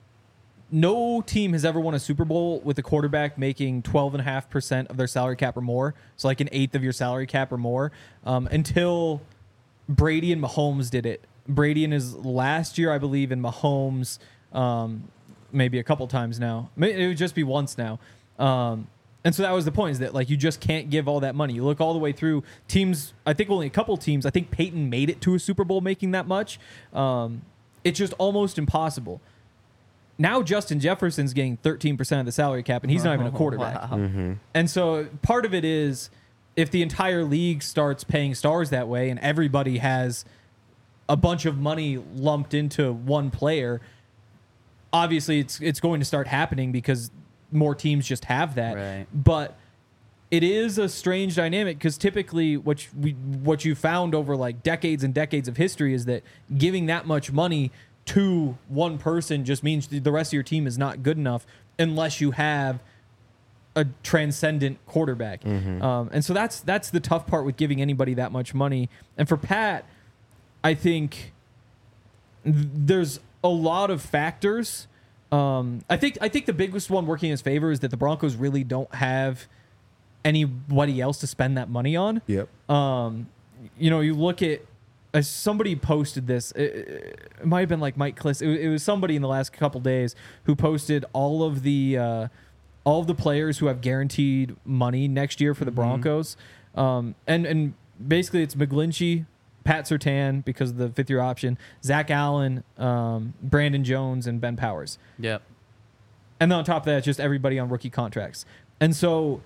no team has ever won a Super Bowl with a quarterback making twelve point five percent of their salary cap or more. So, like, an eighth of your salary cap or more, um, until Brady and Mahomes did it. Brady in his last year, I believe, and Mahomes um, maybe a couple times now. It would just be once now. Um, and so that was the point, is that, like, you just can't give all that money. You look all the way through teams. I think only a couple teams. I think Peyton made it to a Super Bowl making that much. Um, it's just almost impossible. Now Justin Jefferson's getting thirteen percent of the salary cap, and he's not even a quarterback. Wow. Mm-hmm. And so part of it is, if the entire league starts paying stars that way and everybody has a bunch of money lumped into one player, obviously it's it's going to start happening because more teams just have that. Right. But it is a strange dynamic, because typically what you, we what you found over, like, decades and decades of history is that giving that much money to one person just means the rest of your team is not good enough unless you have a transcendent quarterback. Mm-hmm. Um, and so that's that's the tough part with giving anybody that much money. And for Pat, I think th- there's a lot of factors. Um, I think I think the biggest one working in his favor is that the Broncos really don't have anybody else to spend that money on. Yep. Um, you know, you look at uh, somebody posted this. It, it might have been like Mike Kliss. It, it was somebody in the last couple days who posted all of the uh, all of the players who have guaranteed money next year for the Broncos. Mm-hmm. Um, and and basically it's McGlinchey, Pat Surtain because of the fifth year option, Zach Allen, um, Brandon Jones, and Ben Powers. Yep. And then on top of that, it's just everybody on rookie contracts. And so,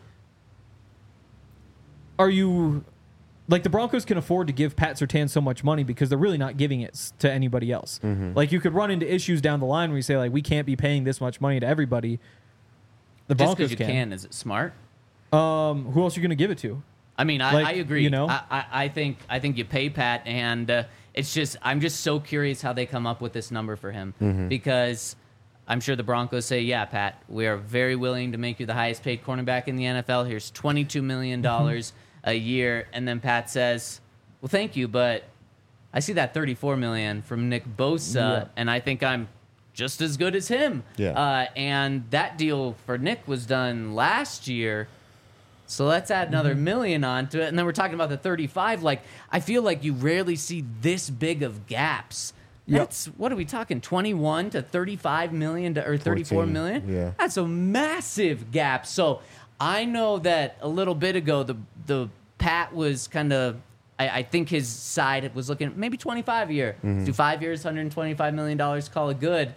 are you, like, the Broncos can afford to give Pat Surtain so much money because they're really not giving it to anybody else. Mm-hmm. Like, you could run into issues down the line where you say, like, we can't be paying this much money to everybody. The Just Broncos because you can. can, is it smart? Um, who else are you going to give it to? I mean, I, Like, I agree. you know? I, I, I think I think you pay Pat, and uh, it's just I'm just so curious how they come up with this number for him, Mm-hmm. because I'm sure the Broncos say, yeah, Pat, we are very willing to make you the highest paid cornerback in the N F L. Here's twenty-two million dollars a year. And then Pat says, well, thank you, but I see that thirty-four million dollars from Nick Bosa, Yeah. and I think I'm just as good as him. Yeah. Uh, and that deal for Nick was done last year. So let's add another Mm-hmm. million onto it. And then we're talking about the thirty-five. Like, I feel like you rarely see this big of gaps. Yep. That's, what are we talking, twenty-one to thirty-five million to, or thirty-four fourteen, million? yeah. That's a massive gap. So I know that a little bit ago, the the Pat was kind of, I, I think his side was looking at maybe twenty-five a year. Mm-hmm. Do five years, one hundred twenty-five million dollars, call it good.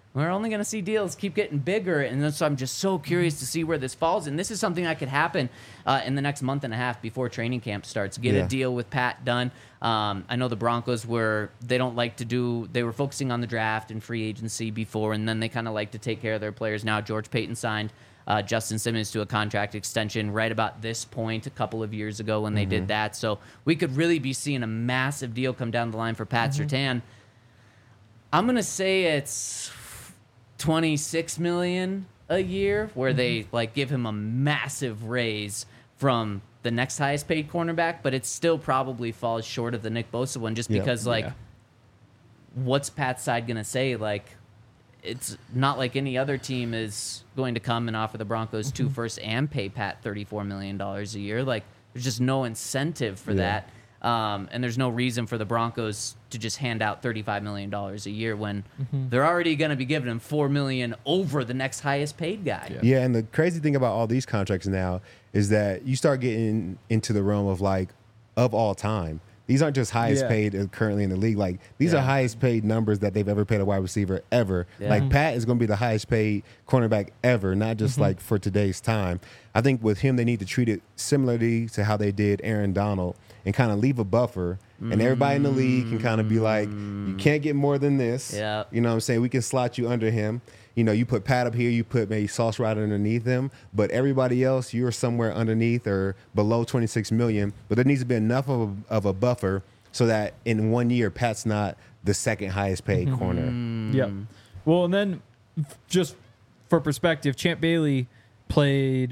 we're only going to see deals keep getting bigger. And then, so I'm just so curious to see where this falls. And this is something that could happen uh, in the next month and a half before training camp starts. Get Yeah. a deal with Pat done. Um, I know the Broncos were, they don't like to do, they were focusing on the draft and free agency before, and then they kind of like to take care of their players now. George Payton signed uh, Justin Simmons to a contract extension right about this point a couple of years ago when they Mm-hmm. did that. So we could really be seeing a massive deal come down the line for Pat Mm-hmm. Surtain. I'm going to say it's twenty-six million a year where they like give him a massive raise from the next highest paid cornerback, but it still probably falls short of the Nick Bosa one just Yeah. because like Yeah. what's Pat's side going to say? Like, it's not like any other team is going to come and offer the Broncos two firsts and pay Pat thirty-four million dollars a year. Like, there's just no incentive for Yeah. that. Um, and there's no reason for the Broncos to just hand out thirty-five million dollars a year when they're already going to be giving him four million dollars over the next highest paid guy. Yeah. Yeah, and the crazy thing about all these contracts now is that you start getting into the realm of like of all time. These aren't just highest Yeah. paid uh, currently in the league. Like these Yeah. are highest paid numbers that they've ever paid a wide receiver ever. Yeah. Like Pat is going to be the highest paid cornerback ever, not just like for today's time. I think with him, they need to treat it similarly to how they did Aaron Donald and kind of leave a buffer. And everybody in the league can kind of be like, you can't get more than this. Yeah. You know what I'm saying? We can slot you under him. You know, you put Pat up here, you put maybe Sauce right underneath him, but everybody else, you're somewhere underneath or below twenty-six million. But there needs to be enough of a, of a buffer so that in one year, Pat's not the second highest paid corner. Yep. Well, and then f- just for perspective, Champ Bailey played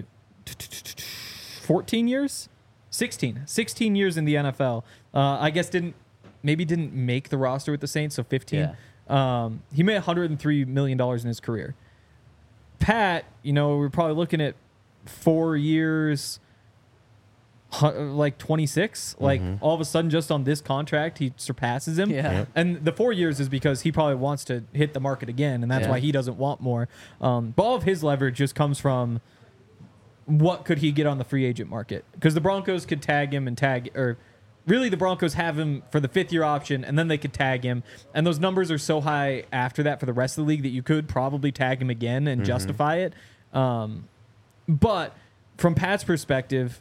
fourteen years, sixteen, sixteen years in the N F L. Uh, I guess didn't maybe didn't make the roster with the Saints, so fifteen. Um, he made one hundred three million dollars in his career. Pat, you know, we're probably looking at four years, hu- like twenty-six. Like all of a sudden, just on this contract, he surpasses him. Yeah. Yep. And the four years is because he probably wants to hit the market again, and that's Yeah. why he doesn't want more. Um, but all of his leverage just comes from what could he get on the free agent market? Because the Broncos could tag him and tag, or really the Broncos have him for the fifth year option, and then they could tag him. And those numbers are so high after that for the rest of the league that you could probably tag him again and justify it. Um, but from Pat's perspective,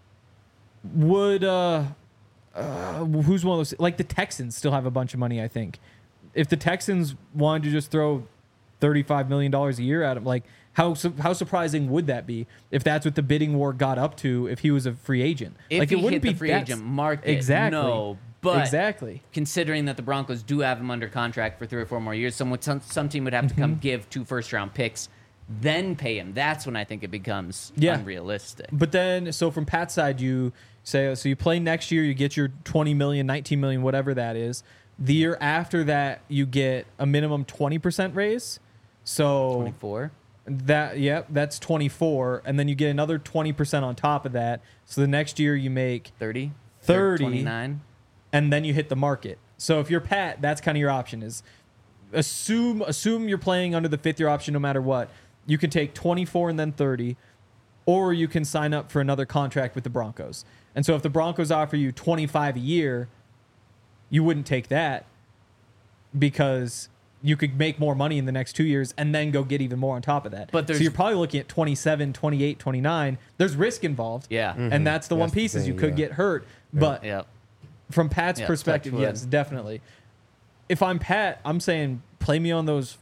would uh, uh, who's one of those? Like the Texans still have a bunch of money, I think. If the Texans wanted to just throw thirty-five million dollars a year at him, like how su- how surprising would that be if that's what the bidding war got up to if he was a free agent? If like he it wouldn't hit the be free that's- agent market, exactly. no. But exactly. considering that the Broncos do have him under contract for three or four more years, someone, some, some team would have to Mm-hmm. come give two first round picks, then pay him. That's when I think it becomes Yeah. unrealistic. But then, so from Pat's side, you say, so you play next year, you get your twenty million, nineteen million, whatever that is. The year after that, you get a minimum twenty percent raise. So twenty-four. that, yep, that's twenty-four. And then you get another twenty percent on top of that. So the next year you make, thirty. thirty. twenty-nine. and then you hit the market. So if you're Pat, that's kind of your option is assume, assume you're playing under the fifth year option no matter what. You can take twenty-four and then thirty, or you can sign up for another contract with the Broncos. And so if the Broncos offer you twenty-five a year, you wouldn't take that because you could make more money in the next two years and then go get even more on top of that. But so there's- you're probably looking at twenty-seven, twenty-eight, twenty-nine. There's risk involved. Yeah. And that's the one That's the piece is you thing, could yeah. get hurt. But Yeah. from Pat's Yeah, perspective, touch wood. yes, definitely. If I'm Pat, I'm saying play me on those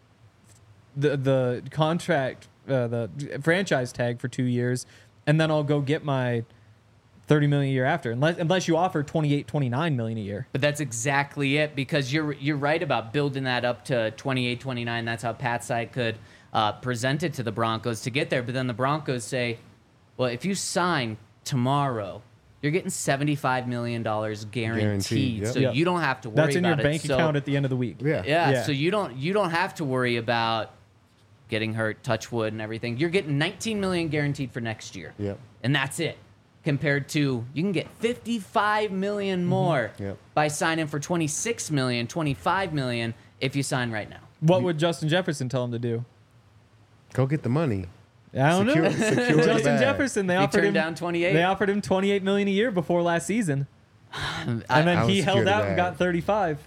the the contract uh, the franchise tag for two years, and then I'll go get my thirty million a year after. Unless unless you offer twenty-eight, twenty-nine million a year. But that's exactly it because you're you're right about building that up to twenty-eight, twenty-nine. That's how Pat's side could uh, present it to the Broncos to get there. But then the Broncos say, well, if you sign tomorrow, you're getting seventy-five million dollars guaranteed. Guaranteed, yep. So Yep. you don't have to worry That's in about your it. bank So- account at the end of the week. Yeah. Yeah, Yeah. so you don't you don't have to worry about getting hurt, touch wood, and everything. You're getting nineteen million guaranteed for next year. Yep. And that's it. Compared to you can get fifty-five million more Yep. by signing for twenty-six million, twenty-five million if you sign right now. What would Justin Jefferson tell him to do? Go get the money. I don't Secure- know. secure the Justin bag. Jefferson, they He offered turned him down twenty-eight. They offered him twenty-eight million a year before last season, and I- then I would he secure held the out and bag. got thirty-five.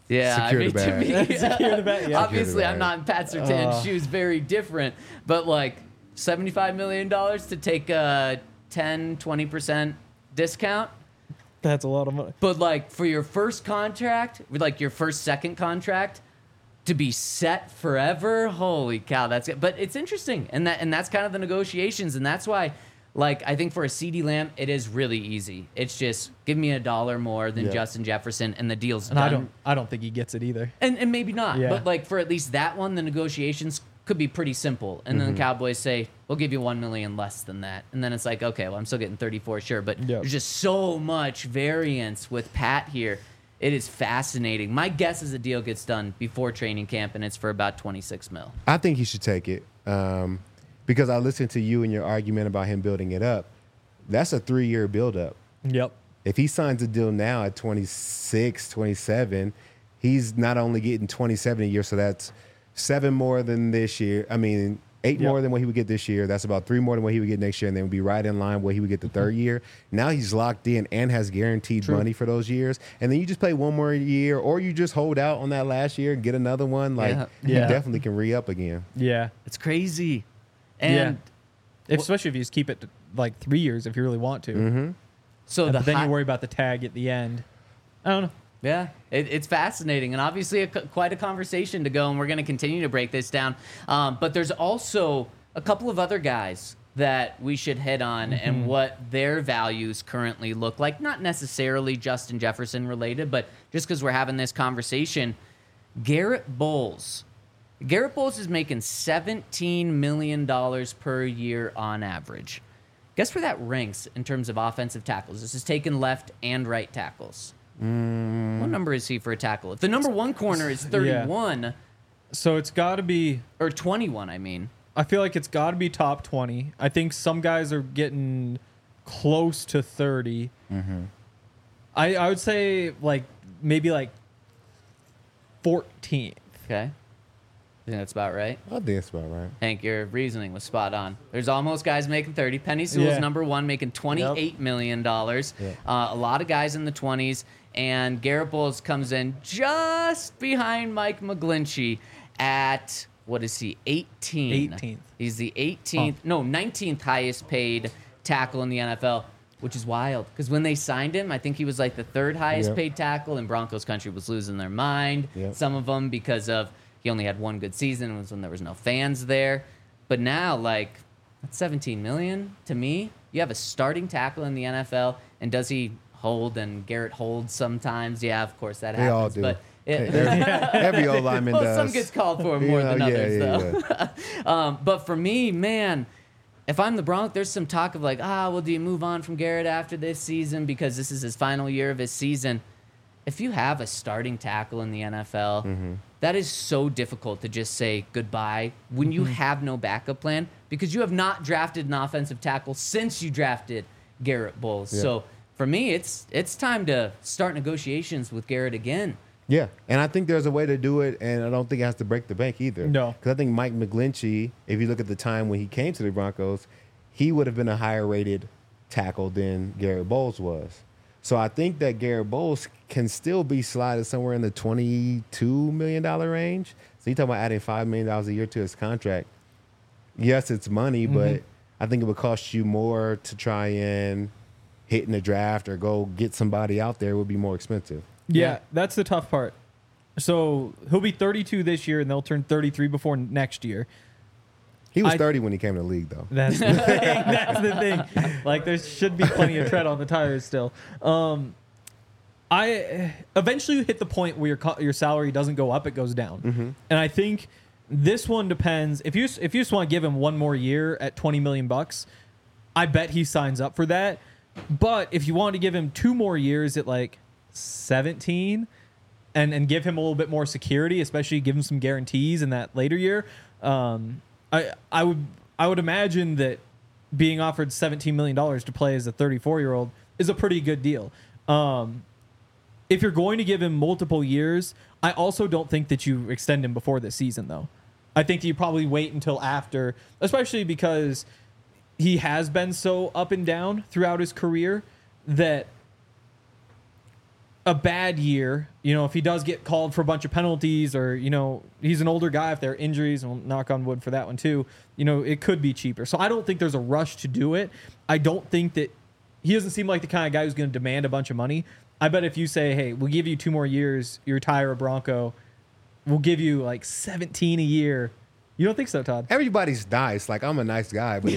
Yeah, Secure I mean, the to bag. me, Secure the bag, yeah. obviously, Secure the I'm bag. not in Pat Surtain's Uh. shoes, very different. But like seventy-five million dollars to take a ten, twenty percent discount. That's a lot of money. But like for your first contract, with like your first second contract, to be set forever, holy cow, that's it. But it's interesting, and that and that's kind of the negotiations, and that's why, like I think for a CeeDee Lamb, it is really easy. It's just give me a dollar more than Yeah. Justin Jefferson, and the deal's And done. I don't I don't think he gets it either. And and maybe not, Yeah. but like for at least that one, the negotiations could be pretty simple. And then the Cowboys say, "We'll give you one million less than that," and then it's like, okay, well, I'm still getting thirty-four, sure, but Yep. there's just so much variance with Pat here. It is fascinating. My guess is the deal gets done before training camp, and it's for about twenty-six mil. I think he should take it um, because I listened to you and your argument about him building it up. That's a three-year build-up. Yep. If he signs a deal now at twenty-six, twenty-seven, he's not only getting twenty-seven a year, so that's seven more than this year. I mean, eight Yep. more than what he would get this year. That's about three more than what he would get next year, and then would be right in line what he would get the third year. Now he's locked in and has guaranteed True. money for those years. And then you just play one more year, or you just hold out on that last year and get another one. Like, Yeah. you Yeah. definitely can re-up again. Yeah. It's crazy. And If, especially if you just keep it to like three years if you really want to. Mm-hmm. so And the then high- you worry about the tag at the end. I don't know. Yeah, it, it's fascinating and obviously a, co- quite a conversation to go, and we're going to continue to break this down. Um, but there's also a couple of other guys that we should hit on and what their values currently look like. Not necessarily Justin Jefferson related, but just because we're having this conversation. Garrett Bowles. Garrett Bowles is making seventeen million dollars per year on average. Guess where that ranks in terms of offensive tackles? This is taking left and right tackles. What number is he for a tackle? If the number one corner is thirty-one, So it's got to be. or twenty-one, I mean. I feel like it's got to be top twenty. I think some guys are getting close to thirty. I I would say like maybe like fourteenth. Okay. I think that's about right. I think that's about right. Hank, your reasoning was spot on. There's almost guys making thirty. Penny Sewell's Yeah. number one, making twenty-eight million dollars. Yeah. Uh, a lot of guys in the twenties. And Garrett Bowles comes in just behind Mike McGlinchey at, what is he, eighteen? eighteenth. He's the eighteenth, no, nineteenth highest paid tackle in the N F L, which is wild. Because when they signed him, I think he was like the third highest Yep. paid tackle, and Broncos country was losing their mind. Yep. Some of them because of he only had one good season. It was when there was no fans there. But now, like, that's seventeen million to me. You have a starting tackle in the N F L, and does he hold? And Garrett holds sometimes. Yeah, of course that They all happens. do. But it, Every, every old lineman well, does. some gets called for more You know, than yeah, others, yeah, though. um, but for me, man, if I'm the Broncos, there's some talk of like, ah, well, do you move on from Garrett after this season because this is his final year of his season? If you have a starting tackle in the N F L, Mm-hmm. that is so difficult to just say goodbye when you have no backup plan because you have not drafted an offensive tackle since you drafted Garrett Bowles. Yeah. So for me, it's it's time to start negotiations with Garrett again. Yeah, and I think there's a way to do it, and I don't think it has to break the bank either. No. Because I think Mike McGlinchey, if you look at the time when he came to the Broncos, he would have been a higher rated tackle than Garrett Bowles was. So I think that Garrett Bowles can still be slided somewhere in the twenty-two million dollars range. So you're talking about adding five million dollars a year to his contract. Yes, it's money, but I think it would cost you more to try and hit in the draft or go get somebody out there. It would be more expensive. Yeah, Yeah. that's the tough part. So he'll be thirty-two this year, and they'll turn thirty-three before next year. He was I- thirty when he came to the league, though. That's the thing. That's the thing. Like there should be plenty of tread on the tires still. Um, I eventually you hit the point where your co- your salary doesn't go up; it goes down. And I think this one depends. If you if you just want to give him one more year at twenty million bucks, I bet he signs up for that. But if you want to give him two more years at like seventeen, and and give him a little bit more security, especially give him some guarantees in that later year, um, I I would I would imagine that being offered seventeen million dollars to play as a thirty-four year old is a pretty good deal. Um, if you're going to give him multiple years, I also don't think that you extend him before this season, though. I think that you probably wait until after, especially because he has been so up and down throughout his career that a bad year, you know, if he does get called for a bunch of penalties, or, you know, he's an older guy, if there are injuries, and we'll knock on wood for that one too, you know, it could be cheaper. So I don't think there's a rush to do it. I don't think that he doesn't seem like the kind of guy who's going to demand a bunch of money. I bet if you say, hey, we'll give you two more years, you retire a Bronco, we'll give you like seventeen a year. You don't think so, Todd? Everybody's nice. Like, I'm a nice guy, but if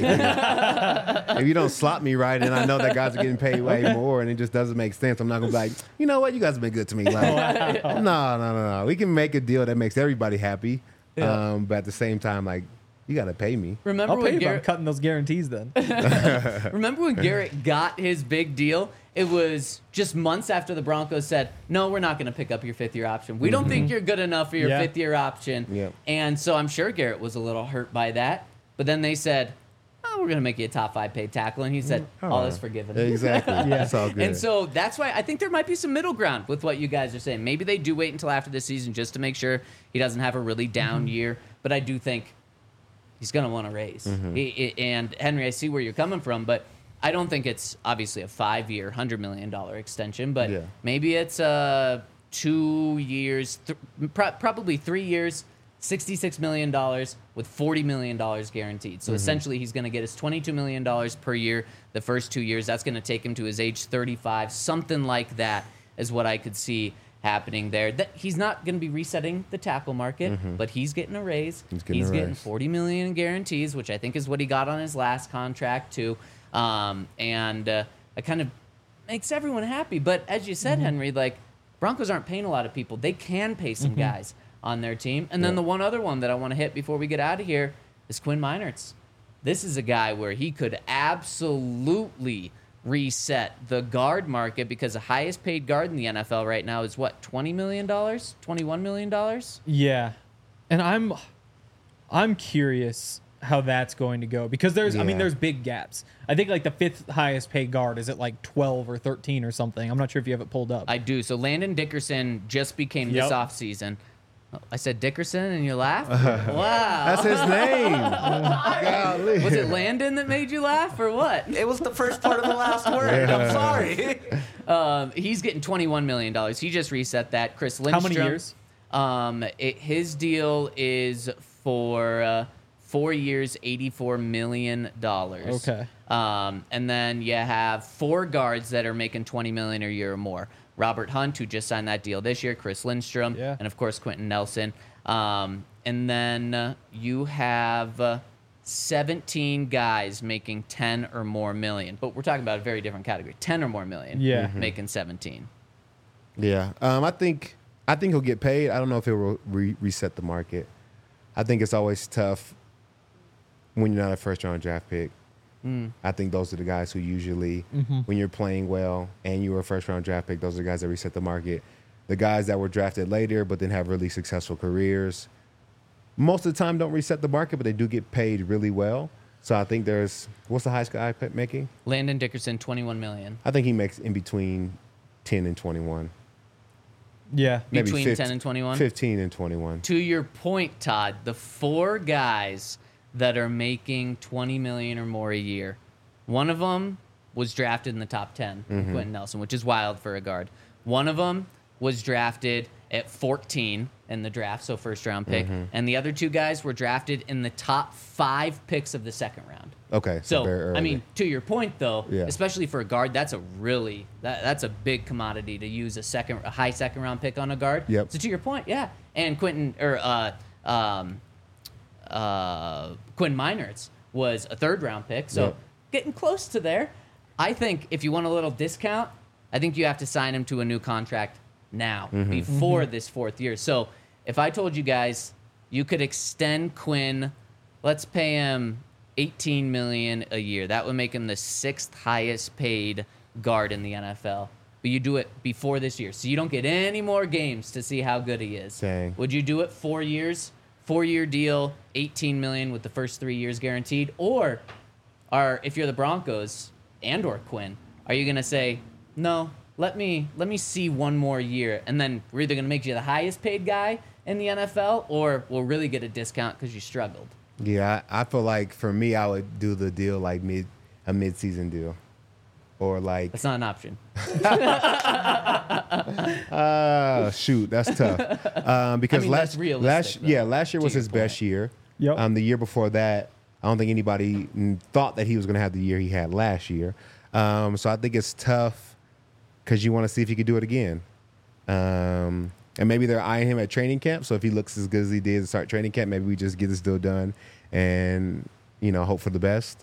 you, if you don't slot me right, and I know that guys are getting paid way more, and it just doesn't make sense, I'm not gonna be like, you know what, you guys have been good to me. Like, no, no, no, no. We can make a deal that makes everybody happy, Yeah. um, but at the same time, like, you gotta pay me. Remember I'll pay when you, but I'm Garrett? cutting those guarantees then. Remember when Garrett got his big deal? It was just months after the Broncos said, no, we're not going to pick up your fifth year option. We don't think you're good enough for your Yeah. fifth year option. Yep. And so I'm sure Garrett was a little hurt by that. But then they said, oh, we're going to make you a top five paid tackle. And he said, all is forgiven. Exactly. Yeah. It's all good. And so that's why I think there might be some middle ground with what you guys are saying. Maybe they do wait until after the season just to make sure he doesn't have a really down Mm-hmm. year. But I do think he's going to want to raise. Mm-hmm. He- he- and Henry, I see where you're coming from, but I don't think it's obviously a five-year, one hundred million dollars extension, but Yeah. maybe it's uh, two years, th- pro- probably three years, sixty-six million dollars with forty million dollars guaranteed. So essentially he's going to get his twenty-two million dollars per year the first two years. That's going to take him to his age thirty-five. Something like that is what I could see happening there. That he's not going to be resetting the tackle market, but he's getting a raise. He's getting a raise. forty million dollars in guarantees, which I think is what he got on his last contract too. Um, and uh, it kind of makes everyone happy. But as you said, Henry, like Broncos aren't paying a lot of people. They can pay some guys on their team. And then Yeah. the one other one that I want to hit before we get out of here is Quinn Meinerz. This is a guy where he could absolutely reset the guard market, because the highest paid guard in the N F L right now is what, twenty million dollars, twenty-one million dollars? Yeah, and I'm I'm curious how that's going to go, because there's I mean Yeah. there's big gaps. I think like the fifth highest paid guard is at like twelve or thirteen or something. I'm not sure if you have it pulled up. I do. So Landon Dickerson just became Yep. this offseason. Oh, I said Dickerson and you laughed? Wow. That's his name. Golly. Was it Landon that made you laugh or what? It was the first part of the last word. I'm sorry. Um, he's getting twenty-one million dollars. He just reset that. Chris Lindstrom. How many years? Um, it, his deal is for uh, four years, eighty-four million dollars. Okay. Um, and then you have four guards that are making twenty million dollars a year or more. Robert Hunt, who just signed that deal this year, Chris Lindstrom, Yeah. and of course Quentin Nelson. Um, and then uh, you have uh, seventeen guys making ten or more million. But we're talking about a very different category. ten or more million. Yeah. Mhm. Making seventeen. Yeah, um, I think I think he'll get paid. I don't know if it will re- reset the market. I think it's always tough when you're not a first round draft pick. I think those are the guys who usually, when you're playing well and you were a first round draft pick, those are the guys that reset the market. The guys that were drafted later but then have really successful careers, most of the time don't reset the market, but they do get paid really well. So I think there's, what's the highest guy pe- making? Landon Dickerson, twenty-one million. I think he makes in between ten and twenty-one. Yeah. Maybe Between fifteen ten and twenty-one. fifteen and twenty-one. To your point, Todd, the four guys that are making twenty million or more a year, one of them was drafted in the top ten, Quentin Nelson, which is wild for a guard. One of them was drafted at fourteen in the draft, so first round pick, and the other two guys were drafted in the top five picks of the second round. Okay, so, So, very early. I mean, to your point though, Yeah. especially for a guard, that's a really that, that's a big commodity to use a second, a high second round pick on a guard. Yep. So to your point, yeah, and Quentin or uh, um, uh, Quinn Meinerz was a third round pick, so Yep. getting close to there. I think if you want a little discount, I think you have to sign him to a new contract now before this fourth year. So if I told you guys you could extend Quinn, let's pay him eighteen million dollars a year. That would make him the sixth highest paid guard in the N F L. But you do it before this year, so you don't get any more games to see how good he is. Dang. Would you do it four years, four-year deal, eighteen million dollars with the first three years guaranteed, or, are if you're the Broncos and or Quinn, are you gonna say no? Let me let me see one more year, and then we're either gonna make you the highest paid guy in the N F L, or we'll really get a discount because you struggled. Yeah, I, I feel like for me, I would do the deal like mid a mid season deal. or like That's not an option. uh shoot, that's tough. Um, because I mean, last that's realistic, last though, yeah, last year to was your his best point. year. Yep. Um, the year before that, I don't think anybody mm, thought that he was going to have the year he had last year. Um, so I think it's tough because you want to see if he could do it again. Um, and maybe they're eyeing him at training camp. So if he looks as good as he did to start training camp, maybe we just get this deal done and, you know, hope for the best.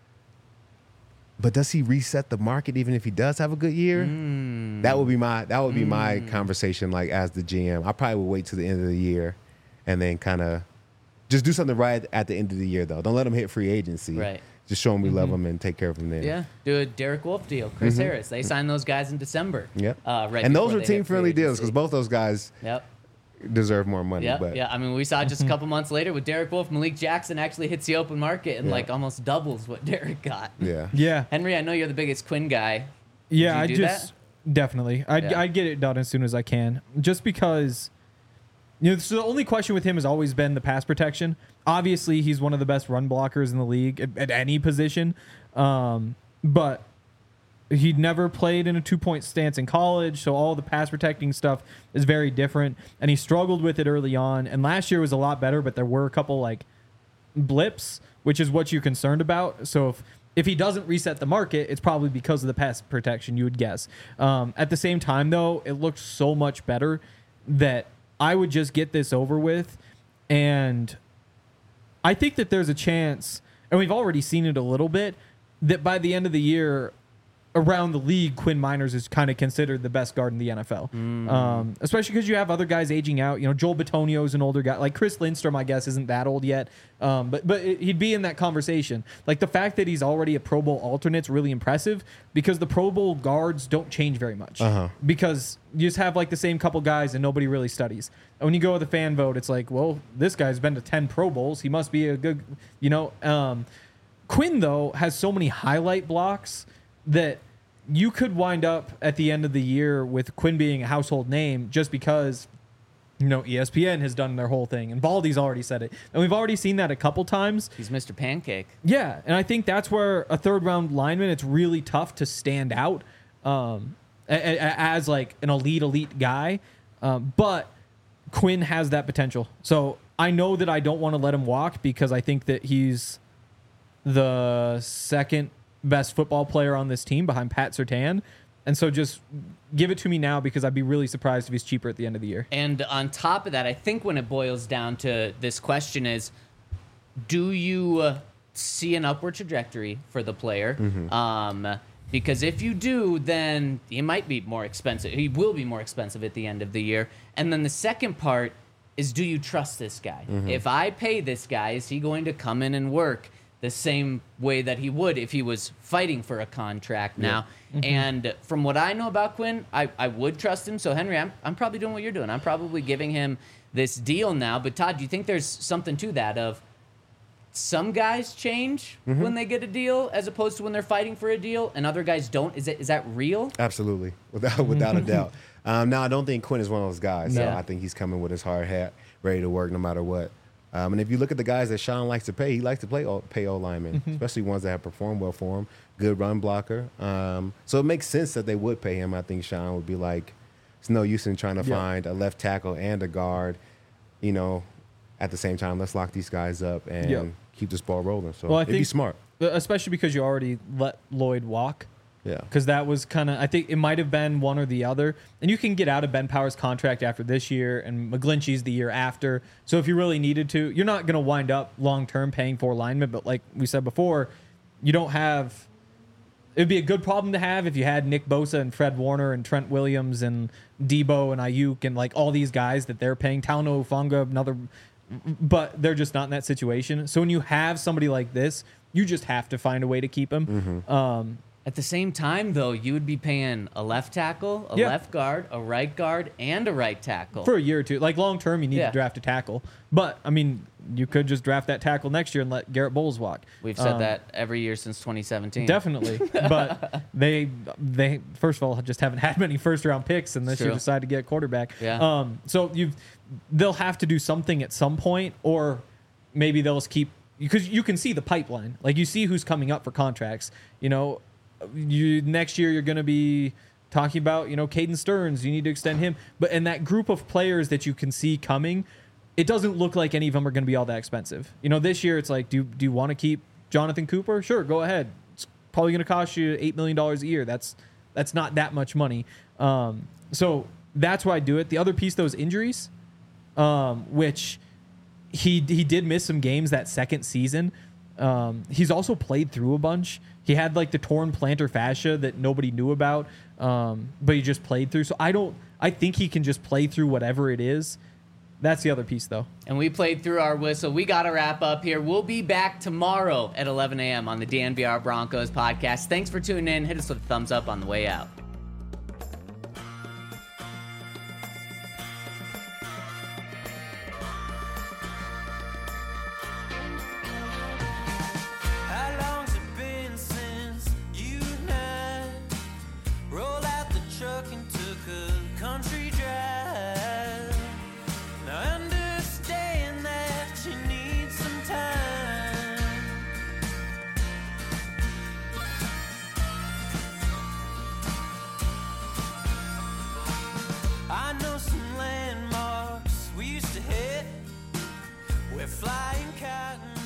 But does he reset the market even if he does have a good year? Mm. That would be my that would be my conversation. Like as the G M, I probably would wait to the end of the year, and then kind of just do something right at the end of the year. Though, don't let him hit free agency. Right. Just show him we love him and take care of him then. Yeah, do a Derek Wolf deal. Chris Harris. They signed those guys in December. Yep. Uh, right and those before were they hit team friendly free deals because agency. both those guys Yep. deserve more money. Yeah, but yeah. I mean, we saw just a couple months later with Derek Wolf, Malik Jackson actually hits the open market and Yeah. like almost doubles what Derek got. yeah. Yeah. Henry, I know you're the biggest Quinn guy. Yeah, you I do just definitely. I'd, Yeah. I'd get it done as soon as I can, just because. You know, so the only question with him has always been the pass protection. Obviously, he's one of the best run blockers in the league at, at any position, um, but he'd never played in a two-point stance in college, so all the pass protecting stuff is very different, and he struggled with it early on. And last year was a lot better, but there were a couple like blips, which is what you're concerned about. So if if he doesn't reset the market, it's probably because of the pass protection, you would guess. Um, at the same time, though, it looked so much better that I would just get this over with. And I think that there's a chance, and we've already seen it a little bit, that by the end of the year, around the league, Quinn Miners is kind of considered the best guard in the N F L. Um, especially because you have other guys aging out. You know, Joel Bitonio is an older guy. Like Chris Lindstrom, I guess, isn't that old yet. Um, but but it, he'd be in that conversation. Like the fact that he's already a Pro Bowl alternate is really impressive because the Pro Bowl guards don't change very much. Uh-huh. Because you just have like the same couple guys and nobody really studies. And when you go with a fan vote, it's like, well, this guy's been to ten Pro Bowls. He must be a good, you know. Um, Quinn, though, has so many highlight blocks that you could wind up at the end of the year with Quinn being a household name just because, you know, E S P N has done their whole thing and Baldy's already said it. And we've already seen that a couple times. He's Mister Pancake. Yeah, and I think that's where a third round lineman, it's really tough to stand out um, a- a- as like an elite, elite guy. Um, but Quinn has that potential. So I know that I don't want to let him walk because I think that he's the second best football player on this team behind Pat Surtain. And so just give it to me now because I'd be really surprised if he's cheaper at the end of the year. And on top of that, I think when it boils down to this question is, do you uh, see an upward trajectory for the player? Um, because if you do, then he might be more expensive. He will be more expensive at the end of the year. And then the second part is, do you trust this guy? If I pay this guy, is he going to come in and work the same way that he would if he was fighting for a contract now? And from what I know about Quinn, I, I would trust him. So, Henry, I'm, I'm probably doing what you're doing. I'm probably giving him this deal now. But, Todd, do you think there's something to that of some guys change when they get a deal as opposed to when they're fighting for a deal and other guys don't? Is it is that real? Absolutely, without without a doubt. Um, now, I don't think Quinn is one of those guys. So No. I think he's coming with his hard hat, ready to work no matter what. Um, and if you look at the guys that Sean likes to pay, he likes to play o- pay O linemen, especially ones that have performed well for him. Good run blocker. Um, so it makes sense that they would pay him. I think Sean would be like, it's no use in trying to Yeah. find a left tackle and a guard, you know, at the same time. Let's lock these guys up and Yeah. keep this ball rolling. So Well, I it'd be think- smart. Especially because you already let Lloyd walk. Yeah. Because that was kind of, I think it might have been one or the other. And you can get out of Ben Power's contract after this year and McGlinchey's the year after. So if you really needed to, you're not going to wind up long-term paying for linemen. But like we said before, you don't have, it would be a good problem to have if you had Nick Bosa and Fred Warner and Trent Williams and Debo and Ayuk and like all these guys that they're paying. Talano Funga, another, but they're just not in that situation. So when you have somebody like this, you just have to find a way to keep him. Um, At the same time, though, you would be paying a left tackle, a Yeah. left guard, a right guard, and a right tackle. for a year or two. Like long term, you need Yeah. to draft a tackle. But I mean, you could just draft that tackle next year and let Garrett Bowles walk. We've said Um, that every year since twenty seventeen. Definitely, but they they first of all just haven't had many first round picks, and this year True. decided to get a quarterback. Yeah. Um. So you, they'll have to do something at some point, or maybe they'll just keep because you can see the pipeline. Like you see who's coming up for contracts. You know, you next year you're going to be talking about, you know, Caden Stearns. You need to extend him. But in that group of players that you can see coming, it doesn't look like any of them are going to be all that expensive. You know, this year it's like, do do you want to keep Jonathan Cooper? Sure, go ahead. It's probably going to cost you eight million dollars a year. That's that's not that much money. Um, so that's why I do it. The other piece, those injuries, um, which he he did miss some games that second season. Um, he's also played through a bunch. He had like the torn plantar fascia that nobody knew about, um, but he just played through. So I don't. I think he can just play through whatever it is. That's the other piece, though. And we played through our whistle. We got to wrap up here. We'll be back tomorrow at eleven a.m. on the D N V R Broncos podcast. Thanks for tuning in. Hit us with a thumbs up on the way out. How long's it been since you and I rolled out the truck and took a country drive? Now understand that you need some time. I know some landmarks we used to hit. We're flying cotton